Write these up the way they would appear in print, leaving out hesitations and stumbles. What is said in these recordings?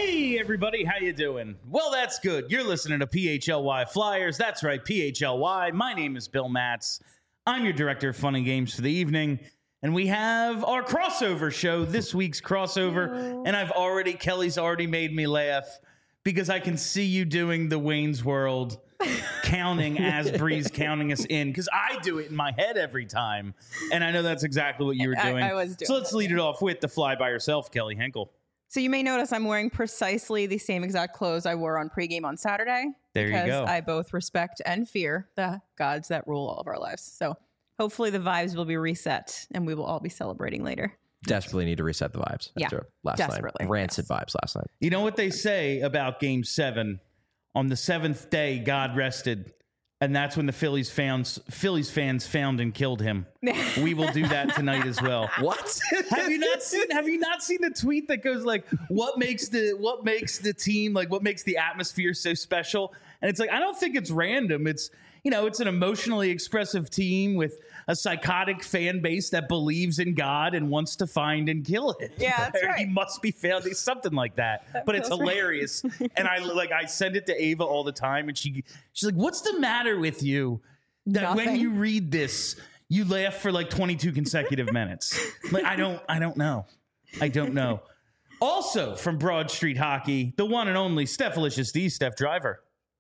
Hey everybody, how you doing? Well, that's good. You're listening to PHLY Flyers. That's right, PHLY. My name is Bill Matz. I'm your director of fun and games for the evening, and we have our crossover show, this week's crossover. And Kelly's already made me laugh because I can see you doing the Wayne's World counting as Bree's counting us in, because I do it in my head every time, and I know that's exactly what you were doing. I was doing so let's lead it off with the fly by yourself, Kelly Henkel. So you may notice I'm wearing precisely the same exact clothes I wore on pregame on Saturday. There you go. Because I both respect and fear the gods that rule all of our lives. So hopefully the vibes will be reset and we will all be celebrating later. Desperately need to reset the vibes after last desperately. night. Rancid vibes last night. You know what they say about Game 7? On the seventh day, God rested. And that's when the Phillies fans found and killed him. We will do that tonight as well. What? Have you not seen the tweet that goes like, what makes the team, like what makes the atmosphere so special? And it's like, I don't think it's random. It's, it's an emotionally expressive team with a psychotic fan base that believes in God and wants to find and kill it. Yeah, that's right. He must be found. Something like that. But it's hilarious. And I send it to Ava all the time, and she's like, "What's the matter with you? That when you read this, you laugh for like 22 consecutive minutes." Like, I don't know. Also from Broad Street Hockey, the one and only Stephalicious D, Steph Driver.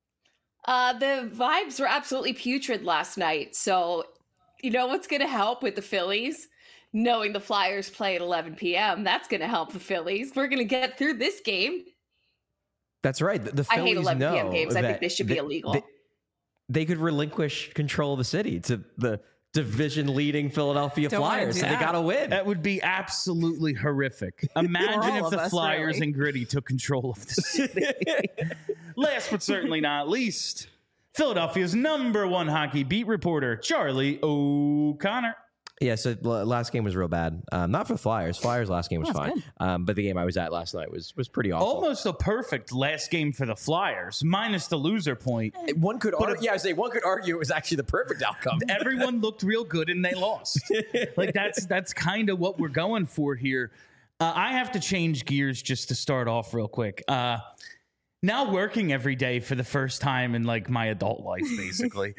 The vibes were absolutely putrid last night. So, you know what's going to help with the Phillies? Knowing the Flyers play at 11 p.m. That's going to help the Phillies. We're going to get through this game. That's right. The Phillies I hate 11 p.m. games. I think they should be illegal. They could relinquish control of the city to the division-leading Philadelphia Flyers, so they got to win. That would be absolutely horrific. Imagine if the Flyers and Gritty took control of the city. Last but certainly not least, Philadelphia's #1 hockey beat reporter, Charlie O'Connor. Yeah, so last game was real bad. Not for the Flyers. Flyers' last game was fine. But the game I was at last night was pretty awful. Almost a perfect last game for the Flyers, minus the loser point. One could argue it was actually the perfect outcome. Everyone looked real good and they lost. That's kind of what we're going for here. I have to change gears just to start off real quick. Now working every day for the first time in my adult life, basically.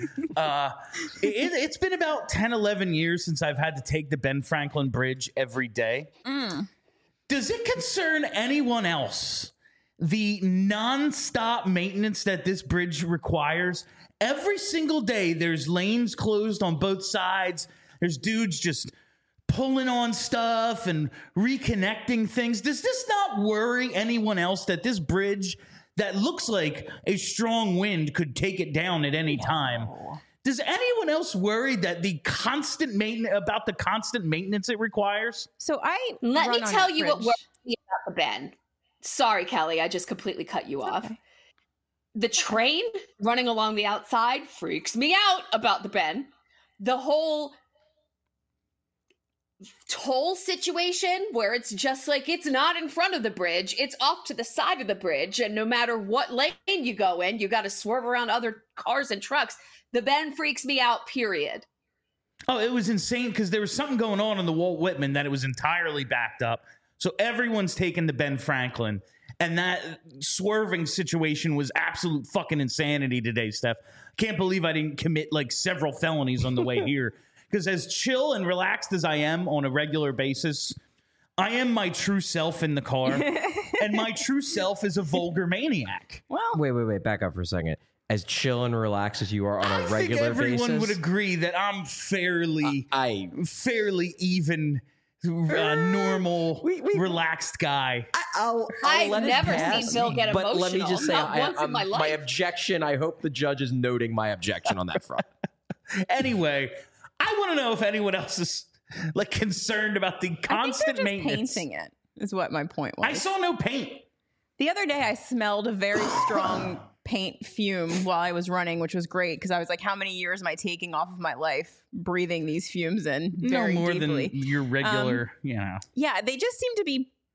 It's been about 10, 11 years since I've had to take the Ben Franklin Bridge every day. Does it concern anyone else, the nonstop maintenance that this bridge requires? Every single day, there's lanes closed on both sides. There's dudes just pulling on stuff and reconnecting things. Does this not worry anyone else that this bridge that looks like a strong wind could take it down at any time? Does anyone else worry that the constant maintenance it requires? So let me tell you what worries me about the Ben. Sorry, Kelly, I just completely cut you off. Okay. The train running along the outside freaks me out about the Ben. The whole toll situation where it's just it's not in front of the bridge, it's off to the side of the bridge, and no matter what lane you go in, you got to swerve around other cars and trucks. The Ben freaks me out, period. Oh, it was insane because there was something going on the Walt Whitman that it was entirely backed up. So everyone's taking the Ben Franklin, and that swerving situation was absolute fucking insanity today, Steph. Can't believe I didn't commit several felonies on the way here. Because as chill and relaxed as I am on a regular basis, I am my true self in the car. And my true self is a vulgar maniac. Well, Wait. Back up for a second. As chill and relaxed as you are on a regular basis, everyone would agree that I'm fairly even, normal, relaxed guy. I've never seen Bill get emotional. But let me just say, once in my life. My objection, I hope the judge is noting my objection on that front. Anyway, I want to know if anyone else is concerned about the constant maintenance. Painting it is what my point was. I saw no paint. The other day I smelled a very strong paint fume while I was running, which was great because I was like, how many years am I taking off of my life breathing these fumes in very no more deeply? than your regular, Yeah, they just seem to be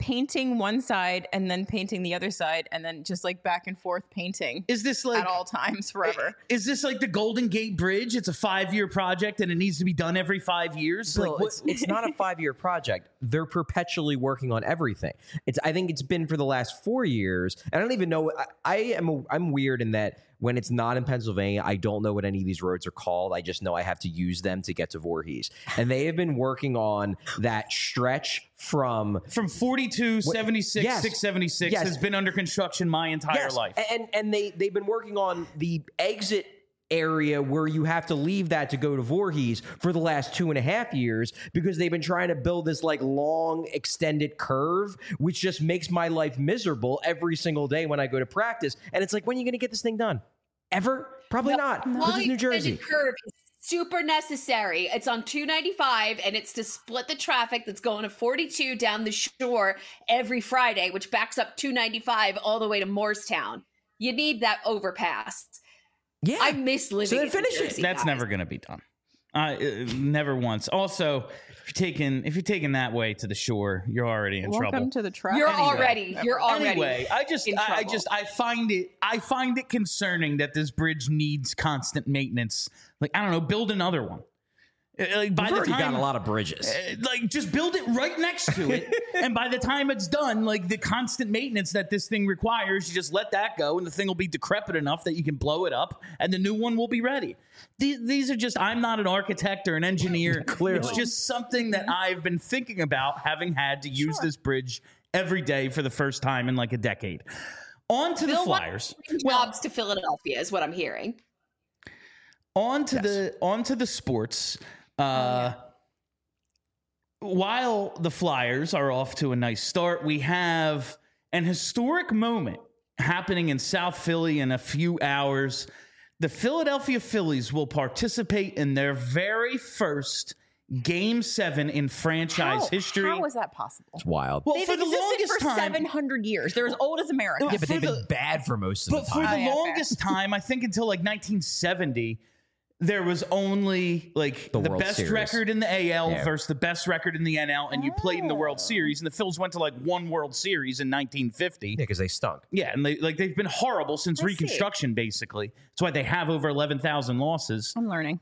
painting one side and then painting the other side and then just like back and forth painting Is this like at all times forever. Is this like the Golden Gate Bridge? It's a 5-year project and it needs to be done every 5 years. Bill, Like what? it's not a 5-year project. They're perpetually working on everything. I think it's been for the last 4 years. I don't even know. I'm weird in that when it's not in Pennsylvania, I don't know what any of these roads are called. I just know I have to use them to get to Voorhees. And they have been working on that stretch from 42, 76, yes. 676 Yes. has been under construction my entire life. And they've been working on the exit area where you have to leave that to go to Voorhees for the last 2.5 years because they've been trying to build this like long extended curve, which just makes my life miserable every single day when I go to practice. And it's like, when are you going to get this thing done? Ever? Probably not. This is New Jersey. Curve is super necessary. It's on 295 and it's to split the traffic that's going to 42 down the shore every Friday, which backs up 295 all the way to Morristown. You need that overpass. Yeah. I miss living in finish New it. Jersey, That's guys. never going to be done. Never once. Also, if you're taking that way to the shore, you're already in trouble. Welcome to the traffic. You're already Anyway, in trouble. I find it concerning that this bridge needs constant maintenance. Like, I don't know, build another one. Like by We've the already time got a lot of bridges. like just build it right next to it, and by the time it's done, like the constant maintenance that this thing requires, you just let that go, and the thing will be decrepit enough that you can blow it up, and the new one will be ready. These are just, I'm not an architect or an engineer. Clearly. It's just something that I've been thinking about, having had to use this bridge every day for the first time in like a decade. On to the Bill Flyers. wants jobs to Philadelphia is what I'm hearing. On to the sports. While the Flyers are off to a nice start, we have an historic moment happening in South Philly in a few hours. The Philadelphia Phillies will participate in their very first Game 7 in franchise history. How is that possible? It's wild. Well, They've for the existed longest for time, 700 years. They're as old as America. Yeah, but for they've the- been bad for most of but the for time. the yeah, fair. longest time, I think until like 1970, there was only like the World best Series. record in the AL Yeah. versus the best record in the NL, and you played in the World Series. And the Phils went to like one World Series in 1950. Yeah, because they stunk. Yeah, and they've been horrible since I see. Reconstruction. Basically, that's why they have over 11,000 losses. I'm learning.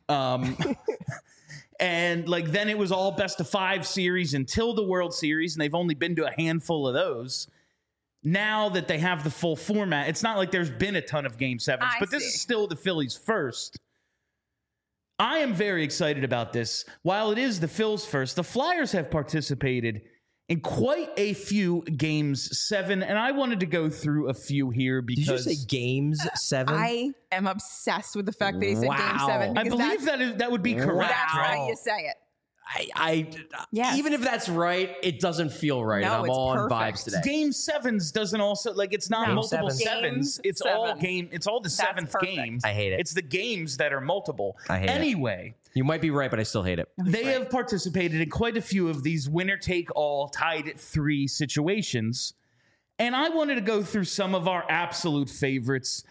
And like then it was all best of 5 series until the World Series, and they've only been to a handful of those. Now that they have the full format, it's not like there's been a ton of Game 7s, but this is still the Phillies' first. I am very excited about this. While it is the Phils' first, the Flyers have participated in quite a few Games 7, and I wanted to go through a few here Did you because just say Games 7? I am obsessed with the fact that he said Game Wow. 7. I because believe that would be correct. that's right? how you say it. Yes. Even if that's right, it doesn't feel right. No, and I'm it's on perfect. vibes today. Game 7s doesn't also like it's not Game multiple sevens. sevens. It's all game. It's all the seventh perfect. game. I hate it. It's the games that are multiple. I hate it. Anyway, You might be right, but I still hate it. they have participated in quite a few of these winner take all tied at 3 situations. And I wanted to go through some of our absolute favorites.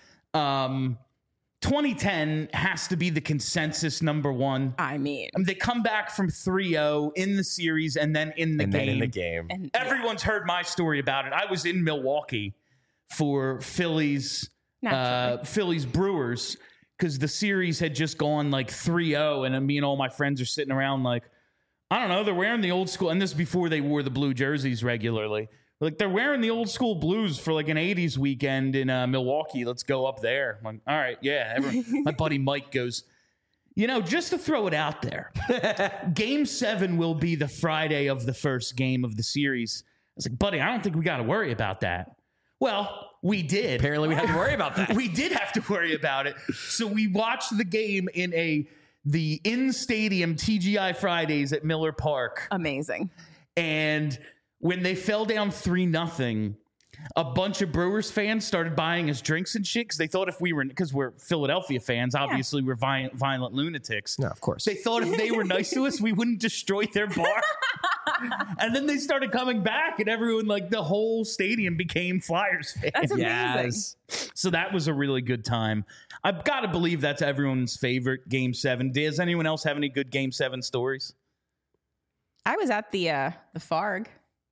2010 has to be the consensus number one. I mean, They come back from 3-0 in the series and then in the And game. then in the game. and Everyone's heard my story about it. I was in Milwaukee for Phillies Brewers because the series had just gone like 3-0, and me and all my friends are sitting around like, I don't know, they're wearing the old school, and this is before they wore the blue jerseys regularly. Like, they're wearing the old school blues for like an 80s weekend in Milwaukee. Let's go up there. I'm like, all right, yeah. My buddy Mike goes, just to throw it out there, Game 7 will be the Friday of the first game of the series. I was like, buddy, I don't think we got to worry about that. Well, we did. Apparently, we had to worry about that. We did have to worry about it. So we watched the game in the in-stadium TGI Fridays at Miller Park. amazing. And when they fell down 3-0, a bunch of Brewers fans started buying us drinks and shit because they thought because we're Philadelphia fans, obviously we're violent lunatics. No, of course. They thought if they were nice to us, we wouldn't destroy their bar. And then they started coming back, and everyone, like the whole stadium, became Flyers fans. That's amazing. Yes. So that was a really good time. I've got to believe that's everyone's favorite Game 7. Does anyone else have any good Game 7 stories? I was at the Farg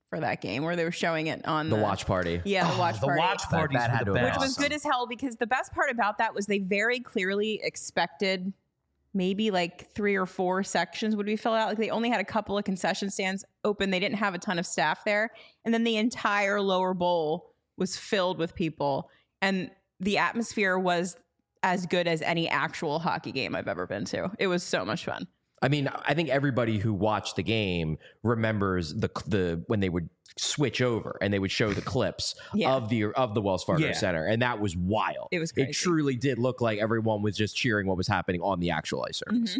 for that game where they were showing it on The watch party. Yeah, the watch The party. watch parties that had were to the have best. Which was good as hell because the best part about that was they very clearly expected maybe like 3 or 4 sections would be filled out. Like they only had a couple of concession stands open. They didn't have a ton of staff there. And then the entire lower bowl was filled with people. And the atmosphere was as good as any actual hockey game I've ever been to. It was so much fun. I mean, I think everybody who watched the game remembers the when they would switch over and they would show the clips Yeah. of the Wells Fargo Yeah. Center, and that was wild. It was It crazy. truly did look like everyone was just cheering what was happening on the actual ice surface. Mhm.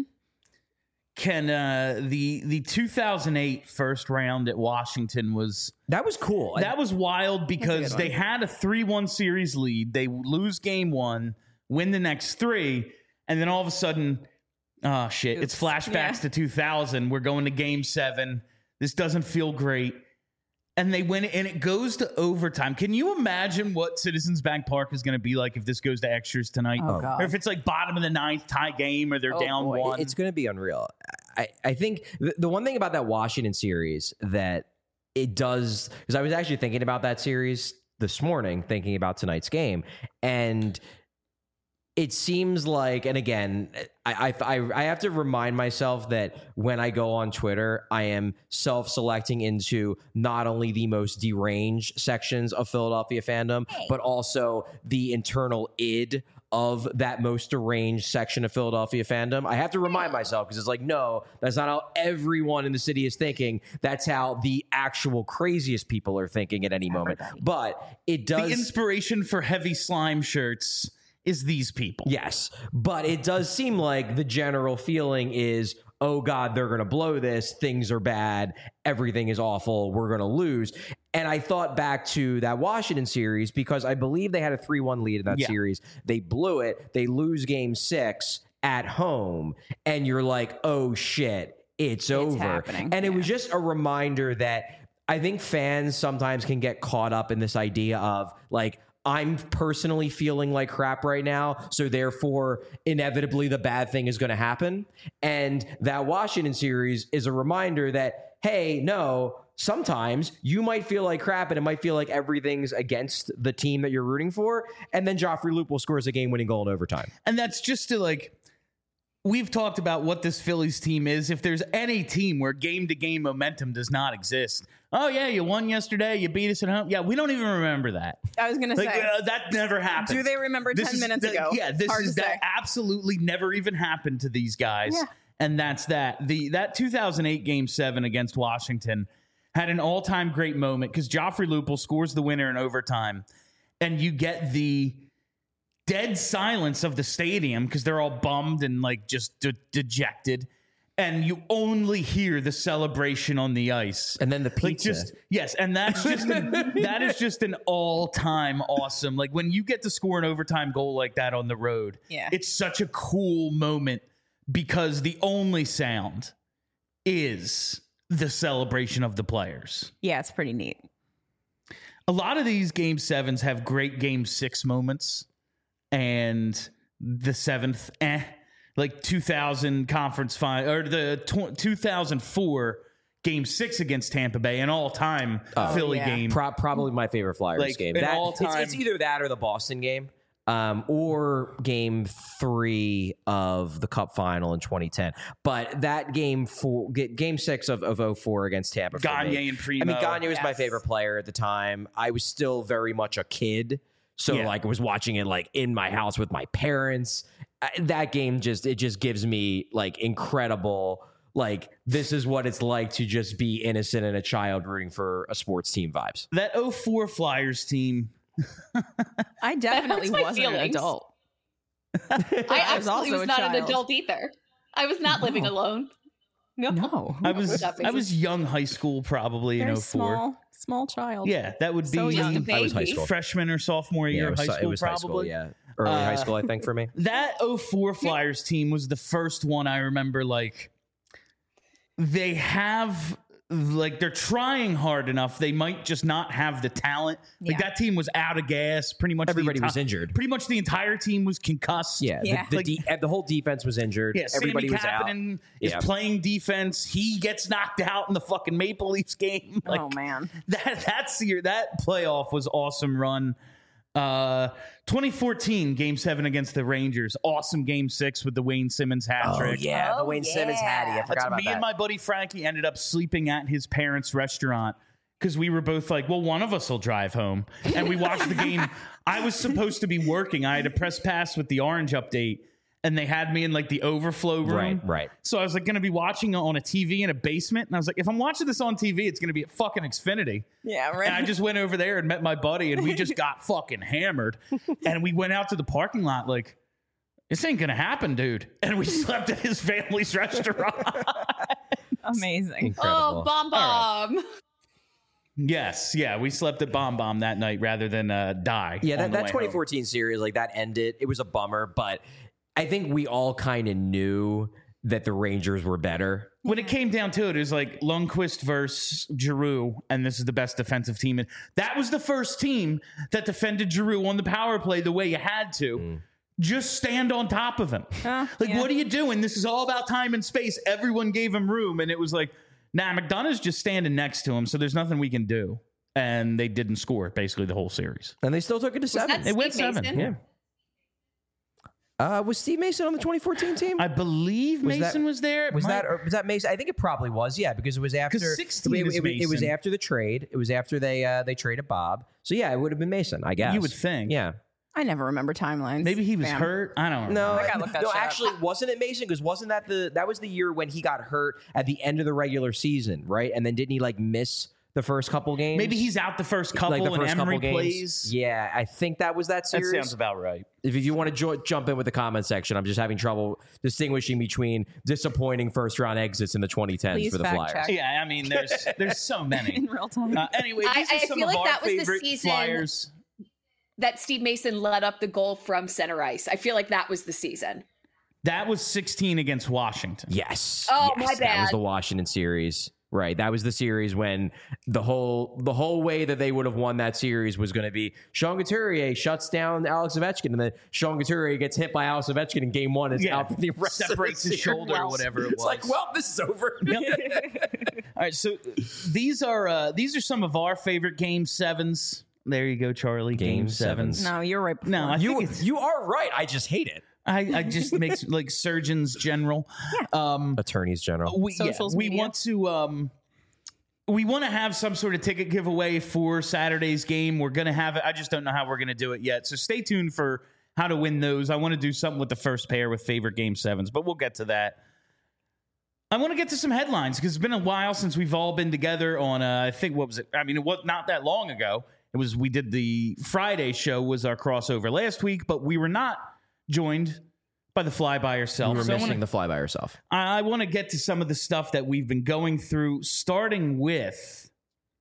Can the 2008 first round at Washington was That was cool. that was wild because good they one. had a 3-1 series lead. They lose game 1, win the next 3, and then all of a sudden, oh shit! It's Oops. flashbacks Yeah. to 2000. We're going to game 7. This doesn't feel great. And they win it, and it goes to overtime. Can you imagine what Citizens Bank Park is going to be like if this goes to extras tonight? Oh, God. Or if it's like bottom of the 9th tie game, or they're down boy, 1. It's going to be unreal. I think the one thing about that Washington series that it does, because I was actually thinking about that series this morning, thinking about tonight's game, and it seems like, and again, I have to remind myself that when I go on Twitter, I am self-selecting into not only the most deranged sections of Philadelphia fandom, but also the internal id of that most deranged section of Philadelphia fandom. I have to remind myself because it's like, no, that's not how everyone in the city is thinking. That's how the actual craziest people are thinking at any moment. But it does. the inspiration for heavy slime shirts is these people. Yes, but it does seem like the general feeling is, oh God, they're going to blow this. Things are bad. Everything is awful. We're going to lose. And I thought back to that Washington series because I believe they had a 3-1 lead in that series. They blew it. They lose game 6 at home. And you're like, oh shit, it's over. happening. And it was Yeah. just a reminder that I think fans sometimes can get caught up in this idea of like, I'm personally feeling like crap right now, so therefore, inevitably, the bad thing is going to happen. And that Washington series is a reminder that, hey, no, sometimes you might feel like crap and it might feel like everything's against the team that you're rooting for. And then Joffrey Lupul scores a game-winning goal in overtime. And that's just to like, we've talked about what this Phillies team is. If there's any team where game-to-game momentum does not exist, oh yeah, you won yesterday, you beat us at home. Yeah, we don't even remember that. I was going to Like say, that never happened. do they remember 10 minutes ago? Yeah, this Hard is to that say. absolutely never even happened to these guys. Yeah. And that's that. That 2008 Game 7 against Washington had an all-time great moment because Joffrey Lupul scores the winner in overtime, and you get the dead silence of the stadium because they're all bummed and like just dejected, and you only hear the celebration on the ice. And then the Like pizza. yes, and that's just that is just an all-time awesome. Like when you get to score an overtime goal like that on the road, Yeah. it's such a cool moment because the only sound is the celebration of the players. Yeah, it's pretty neat. A lot of these game 7s have great game 6 moments, and the 7th, like 2000 conference final or the 2004 game 6 against Tampa Bay, an all-time Philly yeah. game. Probably my favorite Flyers Like, game. an That, all-time- it's either that or the Boston game, or game 3 of the Cup final in 2010. But that game 6 of 04 against Tampa. for Gagne me. and Primo. I mean, Gagne was my Yes. favorite player at the time. I was still very much a kid. So Yeah. like I was watching it like in my house with my parents. That game just gives me like incredible, like this is what it's like to just be innocent and a child rooting for a sports team vibes. That 04 Flyers team. I definitely hurts my wasn't an feelings. adult. I I was absolutely also was a not an child. adult either. I was not living alone. No. No. I was That makes I was young high school probably in Very 04. small child. Yeah, that would be So young. Just a I was high baby. school. freshman or sophomore year of high school, it was probably. high school, yeah. Early high school, I think, for me. That 04 Flyers team was the first one I remember, like, they have like they're trying hard enough. They might just not have the talent. Like Yeah. that team was out of gas. Pretty much Everybody was injured. Pretty much the entire team was concussed. Yeah, Yeah. the whole defense was injured. Yeah, Everybody Sammy was out. Kapanen is Yeah. playing defense. He gets knocked out in the fucking Maple Leafs game. Like, Oh man. that playoff was awesome run. 2014 Game 7 against the Rangers. Awesome Game 6 with the Wayne Simmons hat Oh trick. yeah, the Oh, Wayne Simmons yeah. hattie. I forgot about Me that. and my buddy Frankie ended up sleeping at his parents' restaurant because we were both like, well, one of us will drive home. And we watched the game. I was supposed to be working. I had a press pass with the Orange update, and they had me in like the overflow room. Right. So I was like going to be watching on a TV in a basement. And I was like, if I'm watching this on TV, it's going to be at fucking Xfinity. Yeah, right. And I just went over there and met my buddy, and we just got fucking hammered. And we went out to the parking lot like, this ain't going to happen, dude. And we slept at his family's restaurant. Amazing. Incredible. Oh, bomb. Yes. Yeah. We slept at Bomb Bomb that night rather than die. Yeah, on the that way 2014 series, like that ended. It was a bummer, but I think we all kind of knew that the Rangers were better. When it came down to it, it was like Lundqvist versus Giroux, and this is the best defensive team. And that was the first team that defended Giroux on the power play the way you had to. Just stand on top of him. Yeah. What are you doing? This is all about time and space. Everyone gave him room, and it was like, nah, McDonough's just standing next to him, so there's nothing we can do. And they didn't score basically the whole series. And they still took it to Was that 7. It went Steve 7. Mason? Yeah. Was Steve Mason on the 2014 team? I believe Was that- Mason was there. It was might- that Mason? I think it probably was. Yeah, because it was after 16 it, is it was Mason. after the trade. It was after they traded Bob. So yeah, it would have been Mason, I guess. You would think. Yeah. I never remember timelines. Maybe he was Fam. hurt. I don't No, know. I gotta look that no. shit up. Actually, wasn't it Mason? Because wasn't that was the year when he got hurt at the end of the regular season, right? And then didn't he like miss the first couple games? Maybe he's out the first couple like the first and Emery couple games. plays. Yeah, I think that was that That series. sounds about right. If you want to jump in with the comment section, I'm just having trouble distinguishing between disappointing first round exits in the 2010s Please for the fact Flyers. check. Yeah, I mean, there's so many. in real time. Anyway, these I are some feel of like our that was the favorite season- Flyers. That Steve Mason led up the goal from center ice. I feel like that was the season. That was 16 against Washington. Yes. Oh, yes, my That was bad. the Washington series. Right. That was the series when the whole way that they would have won that series was going to be Sean Couturier shuts down Alex Ovechkin, and then Sean Couturier gets hit by Alex Ovechkin in game 1 and is Yeah. out for the rest Separates of the his shoulder or series. whatever it It's like, was. well, this is over. All right, so these are some of our favorite Game 7s. There you go, Charlie. Game 7s. No, you're right. No, I You think it's, you are right. I just hate it. I just makes like Surgeons General. Attorneys General. Socials we media. want to we want to have some sort of ticket giveaway for Saturday's game. We're gonna have it. I just don't know how we're gonna do it yet. So stay tuned for how to win those. I want to do something with the first pair with favorite Game 7s, but we'll get to that. I want to get to some headlines because it's been a while since we've all been together on. I think what was it? I mean, it was not that long ago. It was we did the Friday show was our crossover last week, but we were not joined by the Fly by Yourself. You were So I missing wanna- the fly by yourself. I want to get to some of the stuff that we've been going through, starting with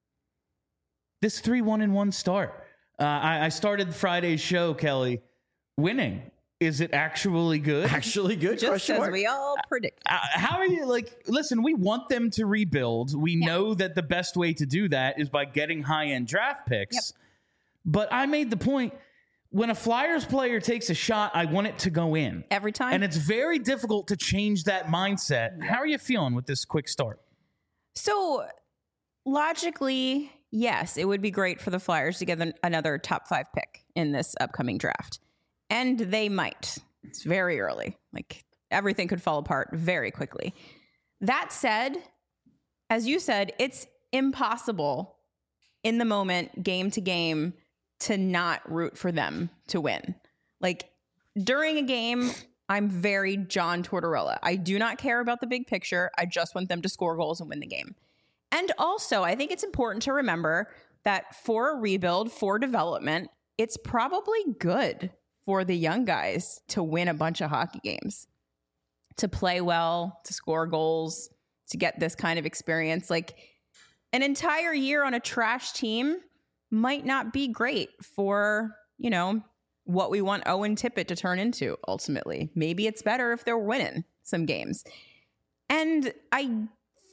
this 3-1-1 start. I started Friday's show, Kelly, winning. Is it actually good? Actually good. Just question as mark. we all predict. How are you like? Listen, we want them to rebuild. We know that the best way to do that is by getting high-end draft picks. Yep. But I made the point, when a Flyers player takes a shot, I want it to go in. Every time. And it's very difficult to change that mindset. How are you feeling with this quick start? So logically, yes, it would be great for the Flyers to get another top 5 pick in this upcoming draft. And they might. It's very early. Like everything could fall apart very quickly. That said, as you said, it's impossible in the moment, game to game, to not root for them to win. Like during a game, I'm very John Tortorella. I do not care about the big picture. I just want them to score goals and win the game. And also, I think it's important to remember that for a rebuild, for development, it's probably good for the young guys to win a bunch of hockey games, to play well, to score goals, to get this kind of experience. Like an entire year on a trash team might not be great for, you know, what we want Owen Tippett to turn into ultimately. Maybe it's better if they're winning some games. And I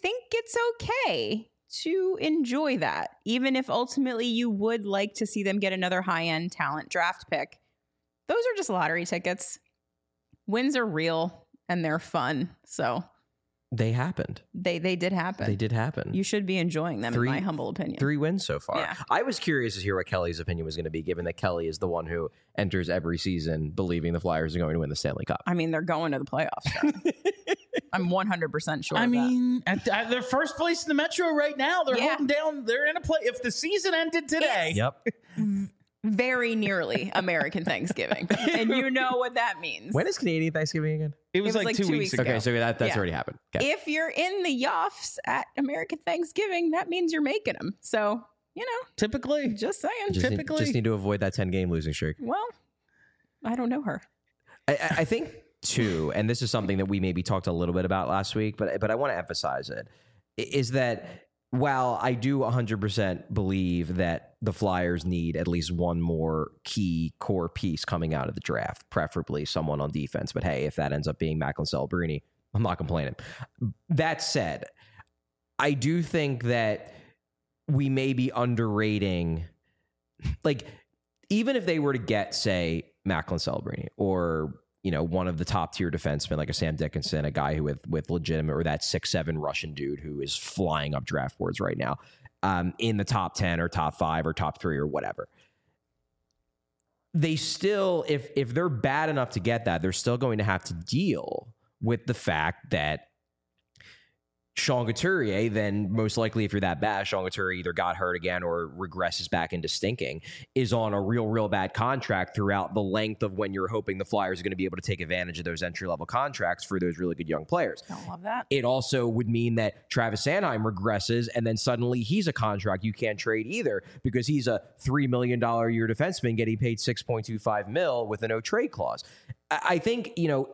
think it's okay to enjoy that, even if ultimately you would like to see them get another high-end talent draft pick. Those are just lottery tickets. Wins are real and they're fun. So They happened. they did happen. They did happen. You should be enjoying them, in my humble opinion. 3 wins so far. Yeah. I was curious to hear what Kelly's opinion was going to be, given that Kelly is the one who enters every season believing the Flyers are going to win the Stanley Cup. I mean, they're going to the playoffs. I'm 100% sure. I of mean, at their first place in the Metro right now. They're Yeah. holding down. They're in a play. If the season ended today, Yep. that. Very nearly American Thanksgiving, and you know what that means. When is Canadian Thanksgiving again? it was like 2 weeks ago. Okay, so that's Yeah. already happened. Okay. If you're in the Yoffs at American Thanksgiving, that means you're making them. So, Typically, just saying. Just need to avoid that 10-game losing streak. Well, I don't know her. I think too, and this is something that we maybe talked a little bit about last week, but I want to emphasize it, is that while I do 100% believe that the Flyers need at least one more key core piece coming out of the draft, preferably someone on defense, but hey, if that ends up being Macklin Celebrini, I'm not complaining. That said, I do think that we may be underrating, like, even if they were to get, say, Macklin Celebrini or, one of the top tier defensemen like a Sam Dickinson, a guy who with legitimate, or that 6'7" Russian dude who is flying up draft boards right now, in the top 10 or top 5 or top 3 or whatever. They still, if they're bad enough to get that, they're still going to have to deal with the fact that Sean Couturier, then most likely if you're that bad, Sean Couturier either got hurt again or regresses back into stinking, is on a real bad contract throughout the length of when you're hoping the Flyers are going to be able to take advantage of those entry-level contracts for those really good young players. Don't love that. It also would mean that Travis Sanheim regresses, and then suddenly he's a contract you can't trade either because he's a $3 million a year defenseman getting paid $6.25 million with a no trade clause. I think,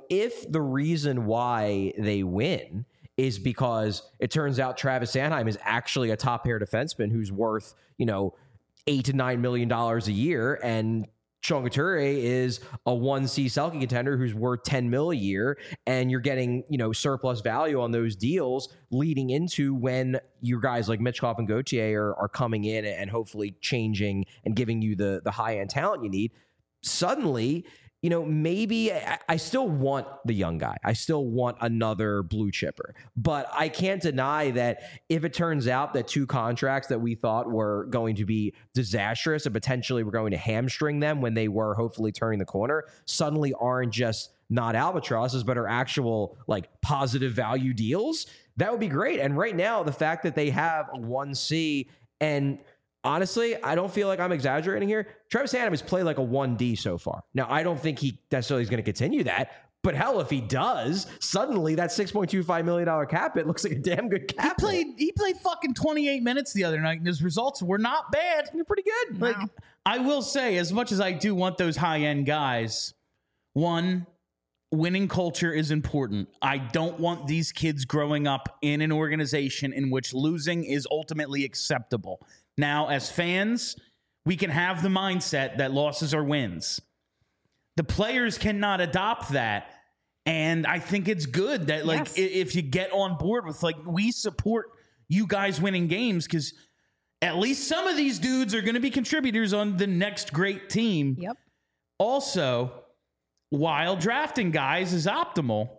if the reason why they win is because it turns out Travis Sanheim is actually a top pair defenseman who's worth, $8 to $9 million a year, and Sean Couturier is a 1C Selke contender who's worth $10 million a year, and you're getting, surplus value on those deals leading into when your guys like Mitchkov and Gauthier are coming in and hopefully changing and giving you the high-end talent you need. Suddenly, maybe I still want the young guy. I still want another blue chipper. But I can't deny that if it turns out that 2 contracts that we thought were going to be disastrous and potentially were going to hamstring them when they were hopefully turning the corner, suddenly aren't just not albatrosses, but are actual positive value deals, that would be great. And right now, the fact that they have a 1C, and honestly, I don't feel like I'm exaggerating here, Travis Sanheim has played like a 1D so far. Now, I don't think he necessarily is going to continue that, but hell, if he does, suddenly that $6.25 million cap hit looks like a damn good cap. He played fucking 28 minutes the other night, and his results were not bad. They're pretty good. Like, I will say, as much as I do want those high-end guys, one, winning culture is important. I don't want these kids growing up in an organization in which losing is ultimately acceptable. Now, as fans, we can have the mindset that losses are wins. The players cannot adopt that. And I think it's good that, Yes. if you get on board with, we support you guys winning games, because at least some of these dudes are going to be contributors on the next great team. Yep. Also, while drafting guys is optimal,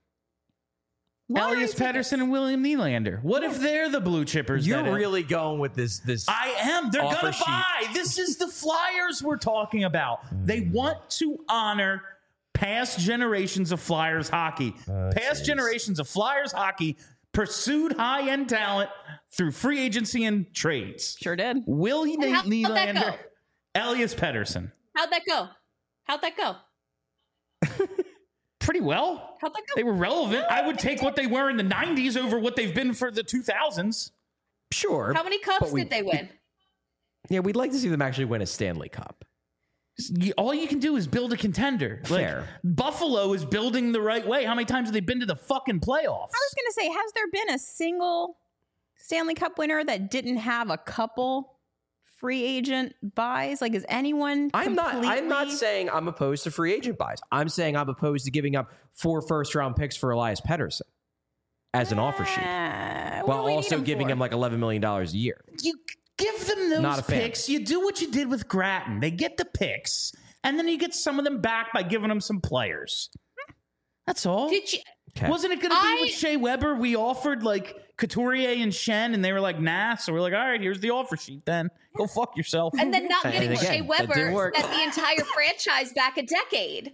Elias Pettersson and William Nylander. What if they're the blue chippers? You're really going with this. I am. They're offer going to sheet. buy. This is the Flyers we're talking about. They want to honor past generations of Flyers hockey. Past generations of Flyers hockey pursued high-end talent through free agency and trades. Sure did. William And how'd that Nylander, go? Elias Pettersson. How'd that go? Pretty well. How'd that go? They were relevant. I would take what they were in the 90s over what they've been for the 2000s. Sure. How many cups did they win? Yeah, we'd like to see them actually win a Stanley Cup. All you can do is build a contender. Fair. Buffalo is building the right way. How many times have they been to the fucking playoffs? I was going to say, has there been a single Stanley Cup winner that didn't have a couple free agent buys? Is anyone I'm not completely- saying I'm opposed to free agent buys. I'm saying I'm opposed to giving up 4 first-round picks for Elias Pettersson as an offer sheet. What while do we need also giving for? him like $11 million a year. You give them Not those a fan. picks. You do what you did with Gratton. They get the picks, and then you get some of them back by giving them some players. That's all. Did you? Okay. Wasn't it going to be with Shea Weber? We offered like Couturier and Shen, and they were like, nah. So we're like, all right, here's the offer sheet then. Go fuck yourself. And then not And getting again, Shea that Weber didn't work. set the entire franchise back a decade.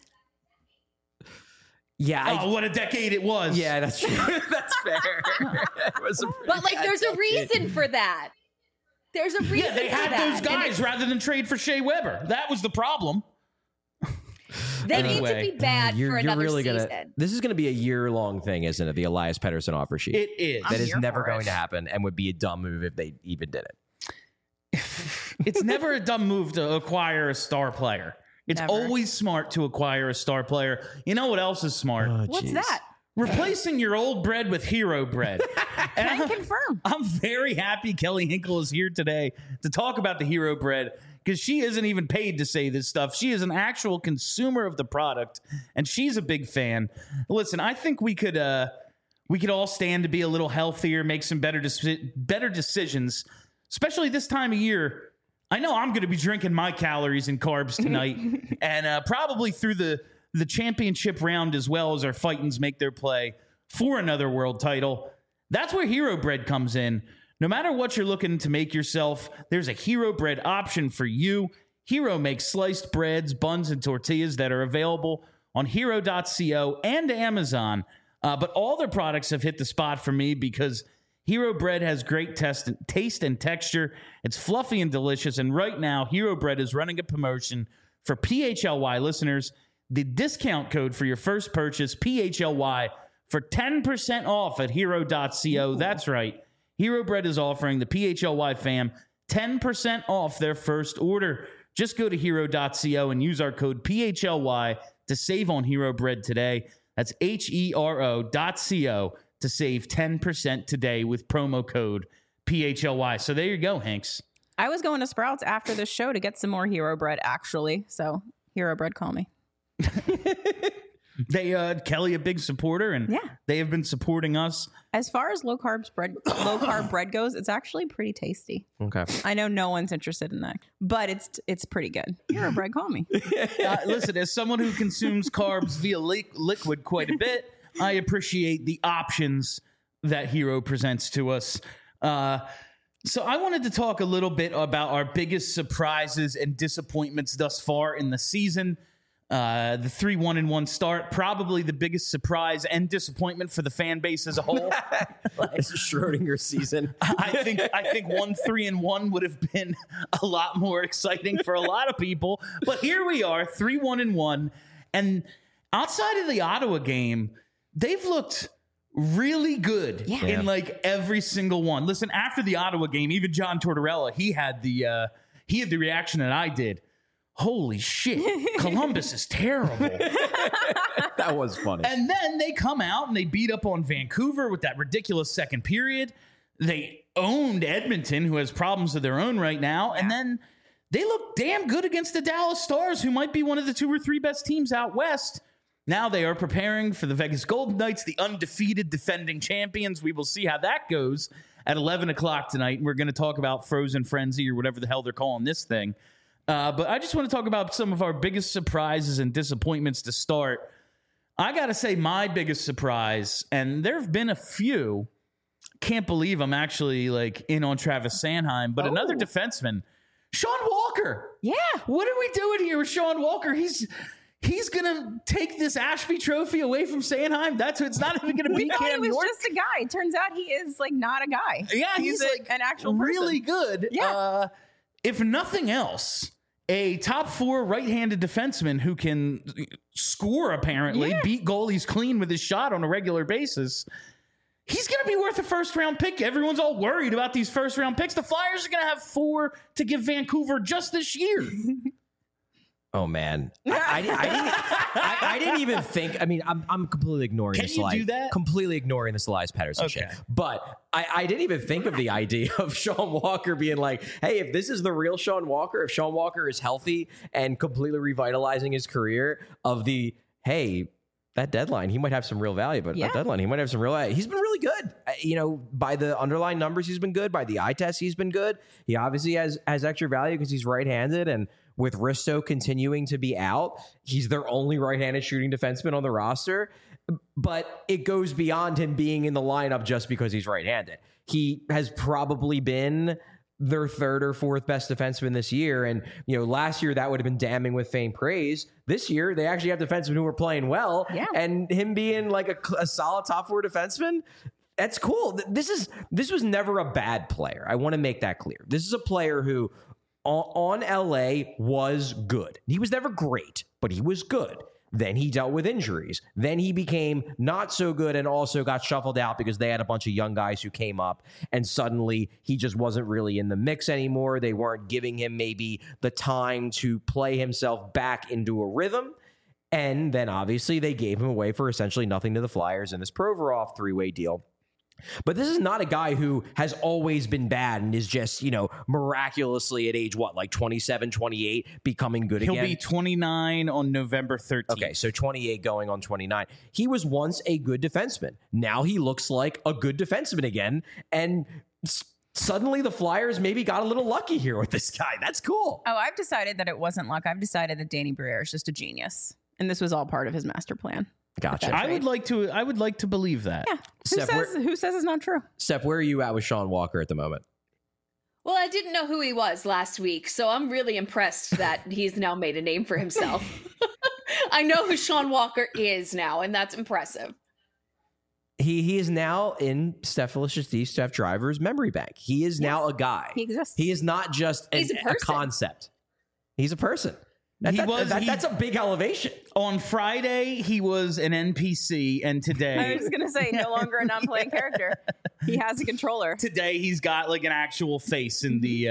Yeah. Oh, what a decade it was. Yeah, that's true. That's fair. It was a But like, there's a reason for that. There's a reason. Yeah, they for had that. those guys rather than trade for Shea Weber. That was the problem. They need Anyway, to be bad for another really season. This is gonna be a year-long thing, isn't it? The Elias Pettersson offer sheet. It is. That is here never for going it. to happen and would be a dumb move if they even did it. It's never a dumb move to acquire a star player. It's Never. always smart to acquire a star player. You know what else is smart? What's that? Replacing your old bread with hero bread. And Can confirm. I'm very happy Kelly Hinkle is here today to talk about the hero bread because she isn't even paid to say this stuff. She is an actual consumer of the product, and she's a big fan. Listen, I think we could all stand to be a little healthier, make some better decisions, especially this time of year. I know I'm going to be drinking my calories and carbs tonight, and probably through the championship round as well as our Fightins make their play for another world title. That's where Hero Bread comes in. No matter what you're looking to make yourself, there's a Hero Bread option for you. Hero makes sliced breads, buns, and tortillas that are available on hero.co and Amazon. But all their products have hit the spot for me because Hero Bread has great taste and texture. It's fluffy and delicious. And right now, Hero Bread is running a promotion for PHLY listeners. The discount code for your first purchase, PHLY, for 10% off at hero.co. That's right. Hero Bread is offering the PHLY fam 10% off their first order. Just go to hero.co and use our code PHLY to save on Hero Bread today. That's HERO.co to save 10% today with promo code PHLY. So there you go, Hanks. I was going to Sprouts after the show to get some more Hero Bread, actually. So Hero Bread, call me. They Kelly a big supporter, and Yeah. they have been supporting us. As far as low carb bread goes, it's actually pretty tasty. Okay. I know no one's interested in that, but it's pretty good. Hero Bread, call me. Listen, as someone who consumes carbs via liquid quite a bit, I appreciate the options that Hero presents to us. So I wanted to talk a little bit about our biggest surprises and disappointments thus far in the season. The 3-1-1 start, probably the biggest surprise and disappointment for the fan base as a whole. It's Schrodinger season. I think 1-3-1 would have been a lot more exciting for a lot of people. But here we are, 3-1-1. And outside of the Ottawa game, they've looked really good in like every single one. Listen, after the Ottawa game, even John Tortorella, he had the reaction that I did. Holy shit, Columbus is terrible. That was funny. And then they come out and they beat up on Vancouver with that ridiculous second period. They owned Edmonton, who has problems of their own right now. And then they look damn good against the Dallas Stars, who might be one of the 2 or 3 best teams out west. Now they are preparing for the Vegas Golden Knights, the undefeated defending champions. We will see how that goes at 11 o'clock tonight. We're going to talk about Frozen Frenzy or whatever the hell they're calling this thing. But I just want to talk about some of our biggest surprises and disappointments to start. I got to say my biggest surprise, and there have been a few. Can't believe I'm actually like in on Travis Sanheim, but another defenseman, Sean Walker. Yeah. What are we doing here with Sean Walker? He's going to take this Ashby Trophy away from Sanheim. It's not even going to be We thought Cam he was York. just a guy. It turns out he is like not a guy. Yeah, he's like an actual person. really good. Yeah. If nothing else, a top 4 right-handed defenseman who can score, apparently, beat goalies clean with his shot on a regular basis. He's going to be worth a first-round pick. Everyone's all worried about these first-round picks. The Flyers are going to have 4 to give Vancouver just this year. Oh man, I didn't even think. I mean, I'm completely ignoring Can this. you do that? Completely ignoring this Elias Pettersson shit. But I didn't even think of the idea of Sean Walker being like, hey, if this is the real Sean Walker, if Sean Walker is healthy and completely revitalizing his career, that deadline, he might have some real value. But Yeah. that deadline, he might have some real value. He's been really good. By the underlying numbers, he's been good. By the eye test, he's been good. He obviously has extra value because he's right-handed. And with Risto continuing to be out, he's their only right-handed shooting defenseman on the roster. But it goes beyond him being in the lineup just because he's right-handed. He has probably been their third or fourth best defenseman this year. And, last year that would have been damning with faint praise. This year, they actually have defensemen who are playing well. Yeah. And him being like a solid top four defenseman, that's cool. This was never a bad player. I want to make that clear. This is a player who on LA was good. He was never great, but he was good. Then he dealt with injuries. Then he became not so good and also got shuffled out because they had a bunch of young guys who came up, and suddenly he just wasn't really in the mix anymore. They weren't giving him maybe the time to play himself back into a rhythm. And then obviously they gave him away for essentially nothing to the Flyers in this Provorov three-way deal. But this is not a guy who has always been bad and is just, miraculously at age, 27, 28, becoming good He'll again? be 29 on November 13th. Okay, so 28 going on 29. He was once a good defenseman. Now he looks like a good defenseman again. And suddenly the Flyers maybe got a little lucky here with this guy. That's cool. Oh, I've decided that it wasn't luck. I've decided that Danny Briere is just a genius. And this was all part of his master plan. Gotcha. That's I would like to believe that. Yeah. Steph, Who says it's not true? Steph, where are you at with Sean Walker at the moment? Well, I didn't know who he was last week, so I'm really impressed that he's now made a name for himself. I know who Sean Walker is now, and that's impressive. He is now in Steph Driver's memory bank. He is now a guy. He exists. He is not just He's a a person. concept. He's a person. That's a big elevation. On Friday, he was an NPC, and I today, was going to say, no longer a non-playing character. He has a controller. he's got like an actual face in the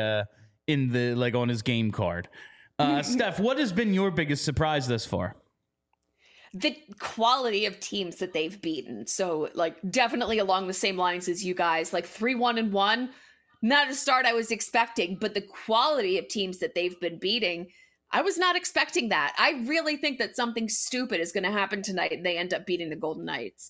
on his game card. Steph, what has been your biggest surprise thus far? The quality of teams that they've beaten. So, definitely along the same lines as you guys, 3-1-1. Not a start I was expecting, but the quality of teams that they've been beating, I was not expecting that. I really think that something stupid is going to happen tonight and they end up beating the Golden Knights.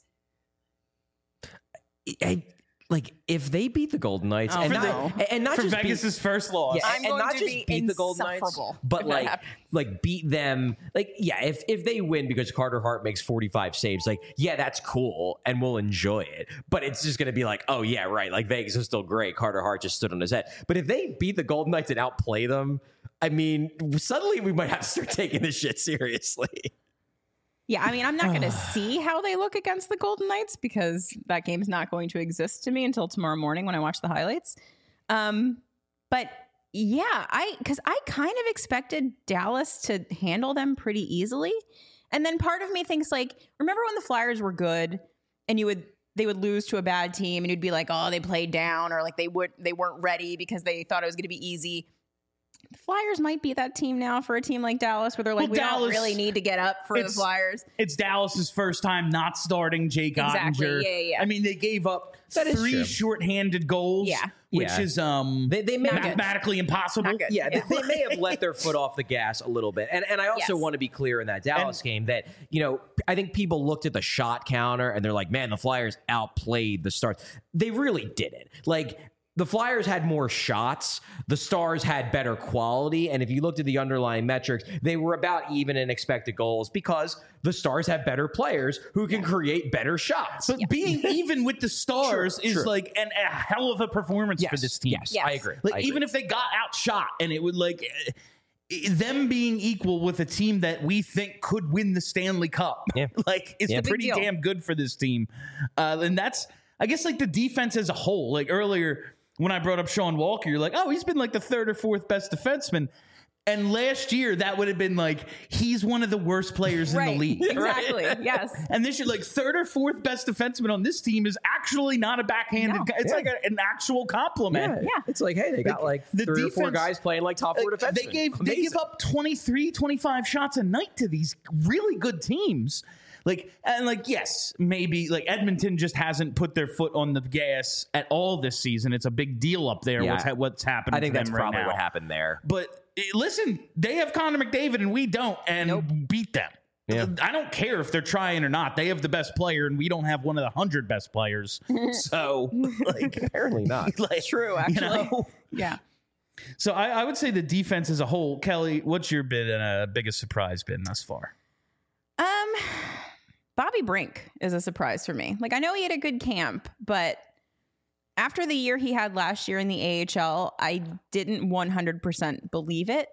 If they beat the Golden Knights Oh, and not For just Vegas's first loss. Yeah, I'm and going not to just be beat the Golden Knights, insufferable but if that happens. beat them. If they win because Carter Hart makes 45 saves, that's cool and we'll enjoy it. But it's just going to be oh yeah, right. Vegas is still great. Carter Hart just stood on his head. But if they beat the Golden Knights and outplay them, I mean, suddenly we might have to start taking this shit seriously. Yeah, I mean, I'm not going to see how they look against the Golden Knights because that game's not going to exist to me until tomorrow morning when I watch the highlights. But yeah, because I kind of expected Dallas to handle them pretty easily. And then part of me thinks remember when the Flyers were good and they would lose to a bad team and you'd be like, oh, they played down, or they weren't ready because they thought it was going to be easy. The Flyers might be that team now for a team like Dallas where they're we don't really need to get up for the Flyers. It's Dallas's first time not starting Jake Exactly. Ottinger. Yeah. I mean, they gave up That is 3 true. shorthanded goals, which Yeah. is They may mathematically impossible. Not good. Yeah, they may have let their foot off the gas a little bit. And I also Yes. want to be clear in that Dallas game that, I think people looked at the shot counter and they're like, man, the Flyers outplayed the Stars. They really didn't. The Flyers had more shots. The Stars had better quality. And if you looked at the underlying metrics, they were about even in expected goals because the Stars have better players who can create better shots. But being even with the Stars is True. a hell of a performance for this team. Yes, Yes. I agree. Even if they got outshot and it would them being equal with a team that we think could win the Stanley Cup, Yeah. it's Yeah. pretty Big deal. damn good for this team. And that's, I guess, the defense as a whole. Earlier when I brought up Sean Walker, you're oh, he's been the third or fourth best defenseman. And last year, that would have been he's one of the worst players in the league. Exactly. Yes. And this year, third or fourth best defenseman on this team is actually not a backhanded No. guy. It's an actual compliment. Yeah. It's hey, they got the 3 or 4 defense- guys playing top 4 defensemen. They give up 23, 25 shots a night to these really good teams. Yes, maybe Edmonton just hasn't put their foot on the gas at all this season. It's a big deal up there. Yeah. What's happening? I think to that's them right probably now. what happened there. But listen, they have Connor McDavid and we don't, and beat them. Yeah. I don't care if they're trying or not. They have the best player, and we don't have one of the 100 best players. So, like, Apparently not. like, True, actually. Yeah. So I would say the defense as a whole. Kelly, what's your biggest surprise been thus far? Bobby Brink is a surprise for me. Like, I know he had a good camp, but after the year he had last year in the AHL, I didn't 100% believe it.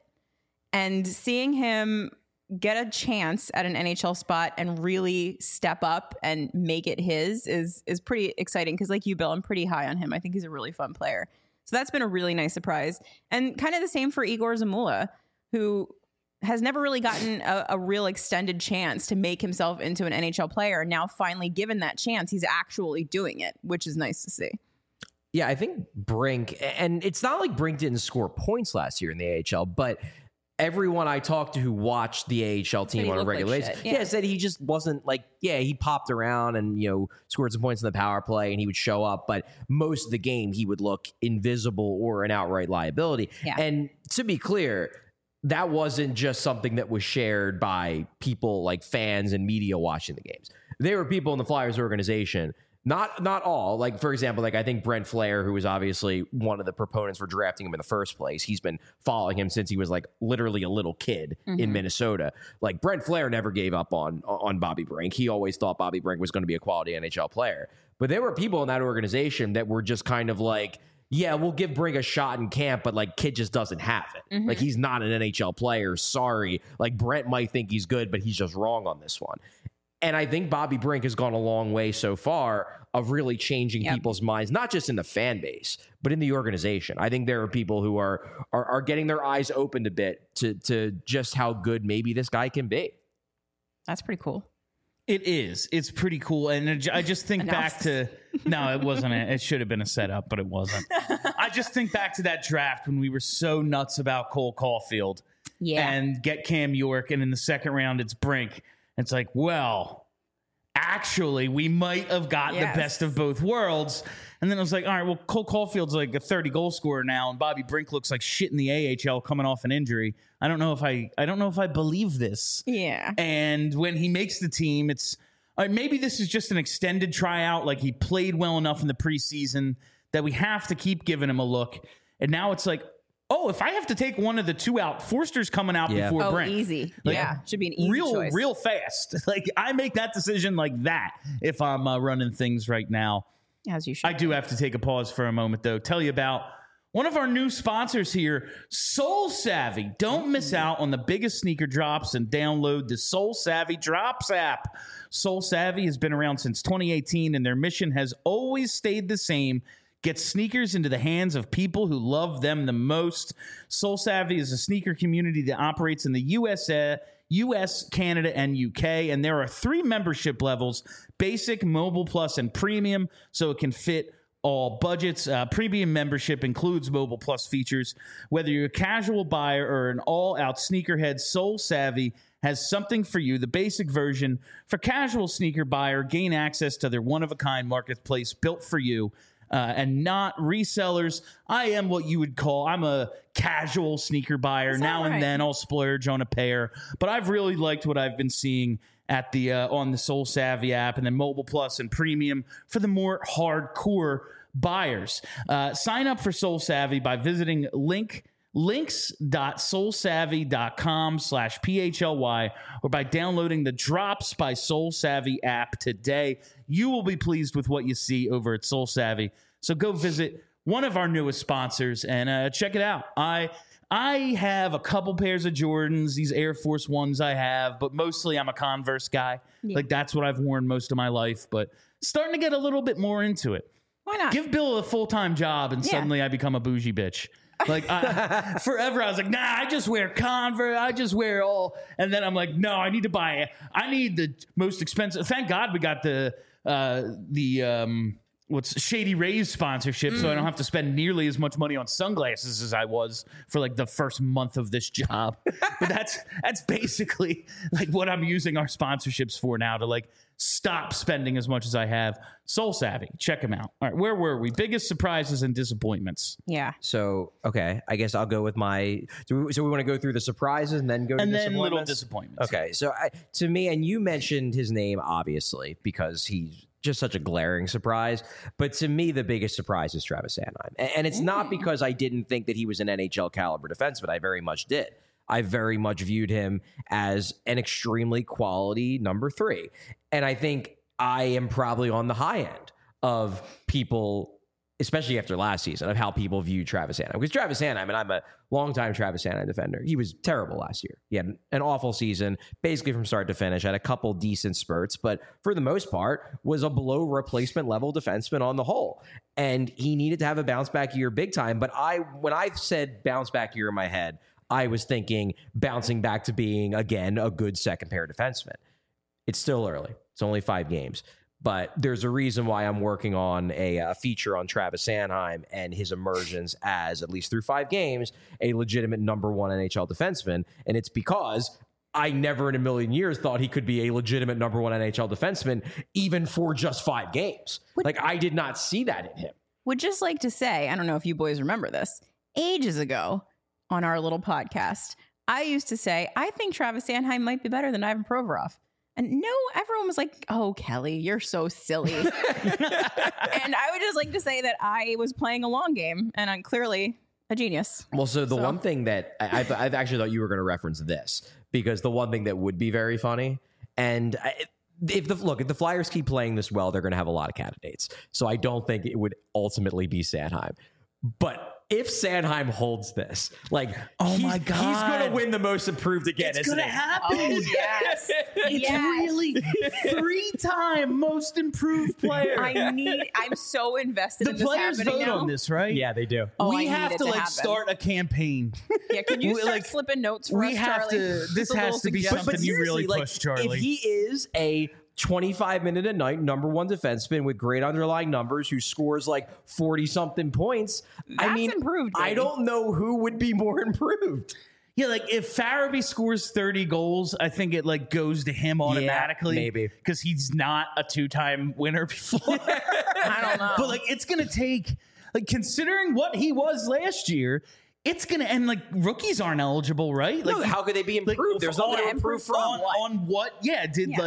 And seeing him get a chance at an NHL spot and really step up and make it his is pretty exciting. Because like you, Bill, I'm pretty high on him. I think he's a really fun player. So that's been a really nice surprise. And kind of the same for Igor Zamula, who has never really gotten a real extended chance to make himself into an NHL player. And now finally given that chance, he's actually doing it, which is nice to see. Yeah, I think Brink, and it's not like Brink didn't score points last year in the AHL, but everyone I talked to who watched the AHL team on a regular basis, said he just wasn't like, he popped around and, scored some points in the power play and he would show up, but most of the game he would look invisible or an outright liability. Yeah. And to be clear, that wasn't just something that was shared by people like fans and media watching the games. There were people in the Flyers organization, not all. Like, for example, like I think Brent Flair, who was obviously one of the proponents for drafting him in the first place, he's been following him since he was like literally a little kid in Minnesota. Like Brent Flair never gave up on Bobby Brink. He always thought Bobby Brink was going to be a quality NHL player. But there were people in that organization that were just kind of like, yeah, we'll give Brink a shot in camp, but like kid just doesn't have it. Like he's not an NHL player. Sorry. Like Brent might think he's good, but he's just wrong on this one. And I think Bobby Brink has gone a long way so far of really changing people's minds, not just in the fan base, but in the organization. I think there are people who are getting their eyes opened a bit to just how good maybe this guy can be. That's pretty cool. It is. It's pretty cool. And I just think back to... No, it wasn't. It should have been a setup, but it wasn't. I just think back to that draft when we were so nuts about Cole Caulfield and get Cam York, and in the second round, it's Brink. It's like, well, actually, we might have got the best of both worlds. And then I was like, all right, well, Cole Caulfield's like a 30-goal scorer now, and Bobby Brink looks like shit in the AHL coming off an injury. I don't know if I believe this. Yeah. And when he makes the team, it's maybe this is just an extended tryout. Like he played well enough in the preseason that we have to keep giving him a look. And now it's like, oh, if I have to take one of the two out, Forster's coming out before Brink. Easy. Like, should be an easy choice. Real fast. Like I make that decision like that if I'm running things right now. As you should. I do have to take a pause for a moment, though. Tell you about one of our new sponsors here, Soul Savvy. Don't miss out on the biggest sneaker drops and download the Soul Savvy Drops app. Soul Savvy has been around since 2018, and their mission has always stayed the same. Get sneakers into the hands of people who love them the most. Soul Savvy is a sneaker community that operates in the US, Canada, and UK. And there are 3 membership levels, Basic, Mobile Plus, and Premium, so it can fit all budgets. Premium membership includes Mobile Plus features. Whether you're a casual buyer or an all-out sneakerhead, Soul Savvy has something for you. The basic version for casual sneaker buyer, gain access to their one-of-a-kind marketplace built for you. And not resellers. I am what you would call, I'm a casual sneaker buyer. Now and then I'll splurge on a pair. But I've really liked what I've been seeing at the on the Soul Savvy app, and then Mobile Plus and Premium for the more hardcore buyers. Sign up for Soul Savvy by visiting links.soulsavvy.com/PHLY or by downloading the Drops by Soul Savvy app today. You will be pleased with what you see over at Soul Savvy. So go visit one of our newest sponsors and check it out. I have a couple pairs of Jordans, these Air Force Ones I have, but mostly I'm a Converse guy. Yeah. Like that's what I've worn most of my life, but starting to get a little bit more into it. Why not? Give Bill a full-time job and suddenly I become a bougie bitch. Like forever I was like, nah, I just wear Converse. I just wear all. And then I'm like, no, I need the most expensive. Thank God we got the what's Shady Rays sponsorship, so I don't have to spend nearly as much money on sunglasses as I was for like the first month of this job. But that's basically like what I'm using our sponsorships for now, to like stop spending as much as I have. Soul Savvy, check them out. All right, where were we? Biggest surprises and disappointments. Yeah. So, okay, I guess I'll go with my. So we want to go through the surprises and then go to And then disappointments? little disappointments. Okay, so to me, and you mentioned his name obviously because he's just such a glaring surprise. But to me, the biggest surprise is Travis Sanheim, and it's not because I didn't think that he was an NHL caliber defenseman. I very much did. I very much viewed him as an extremely quality number 3, and I think I am probably on the high end of people, especially after last season, of how people view Travis Sanheim. Because Travis Sanheim, and I'm a longtime Travis Sanheim defender, he was terrible last year. He had an awful season, basically from start to finish, had a couple decent spurts, but for the most part was a below replacement level defenseman on the whole. And he needed to have a bounce back year big time. But when I said bounce back year in my head, I was thinking bouncing back to being, again, a good second pair defenseman. It's still early. It's only 5 games. But there's a reason why I'm working on a feature on Travis Sanheim and his emergence as, at least through 5 games, a legitimate number 1 NHL defenseman. And it's because I never in a million years thought he could be a legitimate number 1 NHL defenseman, even for just 5 games. Like, I did not see that in him. Would just like to say, I don't know if you boys remember this, ages ago on our little podcast, I used to say, I think Travis Sanheim might be better than Ivan Provorov. And no, everyone was like, oh, Kelly, you're so silly. And I would just like to say that I was playing a long game, and I'm clearly a genius. Well, so the one thing that I've actually thought you were going to reference this, because the one thing that would be very funny, and if the Flyers keep playing this well, they're going to have a lot of candidates. So I don't think it would ultimately be Sanheim. But if Sanheim holds this, like, my God, he's going to win the most improved again. It's going to happen. Oh, yes. It's really 3-time most improved player. I'm so invested in The this players happening vote now. on this, right? Yeah, they do. Oh, We I have need to it like happen. start a campaign. Yeah, can you start like, slipping notes for we us, have Charlie? to. This Just a has little to be suggestion. something you really seriously, push, Charlie. If he is a 25-minute a night number 1 defenseman with great underlying numbers who scores like 40-something points, That's improved, I baby. don't know who would be more improved. Yeah, like if Farabee scores 30 goals, I think it like goes to him automatically. maybe. Because he's not a 2-time winner before. I don't know. But like it's gonna take, like, considering what he was last year, it's gonna end like rookies aren't eligible, right? Like, No, how could they be improved? like, There's nothing to on- improve from. on what? Yeah,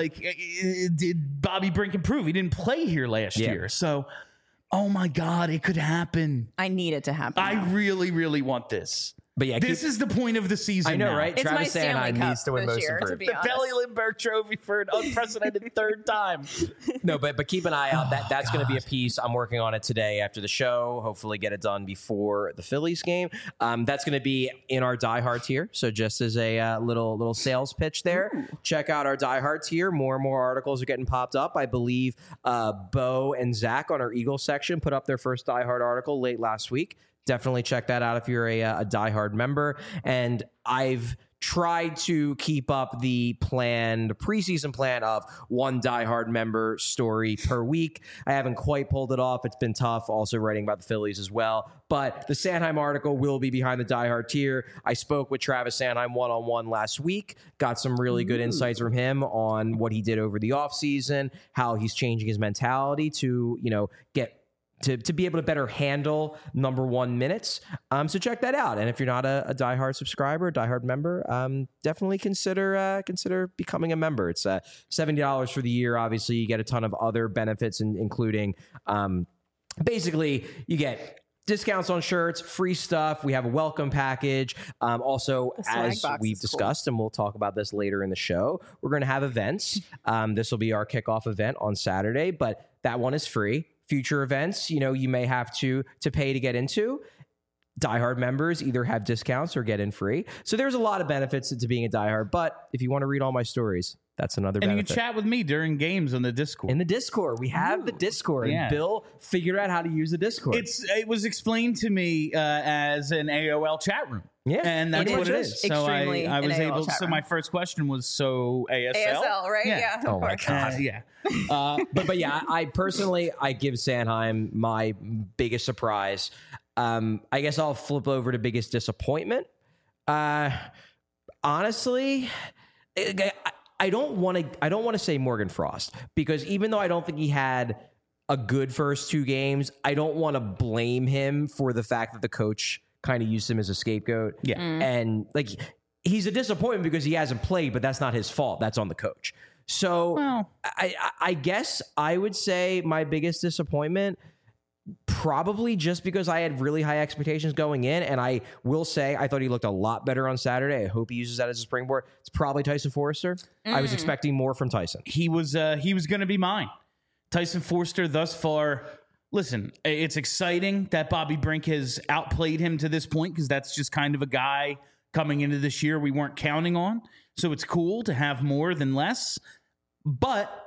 did Bobby Brink improve? He didn't play here last Yeah. year, so oh my God, it could happen. I need it to happen. I now. really, really want this. But yeah, This is the point of the season. I know, now. right? It's Travis my Stanley Sanheim Cup needs to win this most year, to improved. be The honest. Belly Lindbergh Trophy for an unprecedented 3rd time. No, but keep an eye out. That's going to be a piece. I'm working on it today after the show. Hopefully, get it done before the Phillies game. That's going to be in our Die Hard tier. So just as a little sales pitch there, check out our Die Hard tier. More and more articles are getting popped up. I believe Bo and Zach on our Eagles section put up their first Die Hard article late last week. Definitely check that out if you're a Die Hard member. And I've tried to keep up the preseason plan of 1 Die Hard member story per week. I haven't quite pulled it off. It's been tough also writing about the Phillies as well. But the Sanheim article will be behind the Die Hard tier. I spoke with Travis Sanheim one-on-one last week. Got some really good insights from him on what he did over the offseason, how he's changing his mentality to, get to be able to better handle number 1 minutes. So check that out. And if you're not a diehard subscriber, diehard member, definitely consider becoming a member. It's $70 for the year. Obviously, you get a ton of other benefits, including basically you get discounts on shirts, free stuff. We have a welcome package. Also, swag as box we've is cool. discussed, and we'll talk about this later in the show, we're going to have events. This will be our kickoff event on Saturday, but that one is free. Future events, you may have to pay to get into. Diehard members either have discounts or get in free. So there's a lot of benefits to being a diehard. But if you want to read all my stories, that's another And you benefit. can chat with me during games on the Discord. In the Discord. We have the Discord. Yeah. And Bill figured out how to use the Discord. It was explained to me as an AOL chat room. Yeah, And that's It what it is is. So extremely I was an AOL able. chat So room. my first question was, so ASL? ASL, right? Yeah. Oh of my course. God. Yeah. But yeah, I personally I give Sanheim my biggest surprise. I guess I'll flip over to biggest disappointment. Honestly, I don't want to say Morgan Frost, because even though I don't think he had a good first 2 games, I don't want to blame him for the fact that the coach kind of used him as a scapegoat. Yeah. And like, he's a disappointment because he hasn't played, but that's not his fault. That's on the coach. So Well. I guess I would say my biggest disappointment, probably just because I had really high expectations going in, and I will say I thought he looked a lot better on Saturday. I hope he uses that as a springboard. It's probably Tyson Forrester. I was expecting more from Tyson. He was going to be mine. Tyson Forster thus far. Listen, it's exciting that Bobby Brink has outplayed him to this point, because that's just kind of a guy coming into this year we weren't counting on. So it's cool to have more than less. But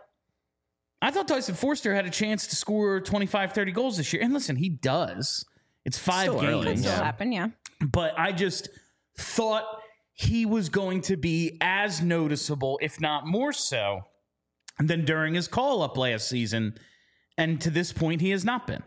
I thought Tyson Forster had a chance to score 25, 30 goals this year. And listen, he does. It's 5 Still games. early, Could still Yeah. happen, yeah. But I just thought he was going to be as noticeable, if not more so, than during his call-up last season. And to this point, he has not been.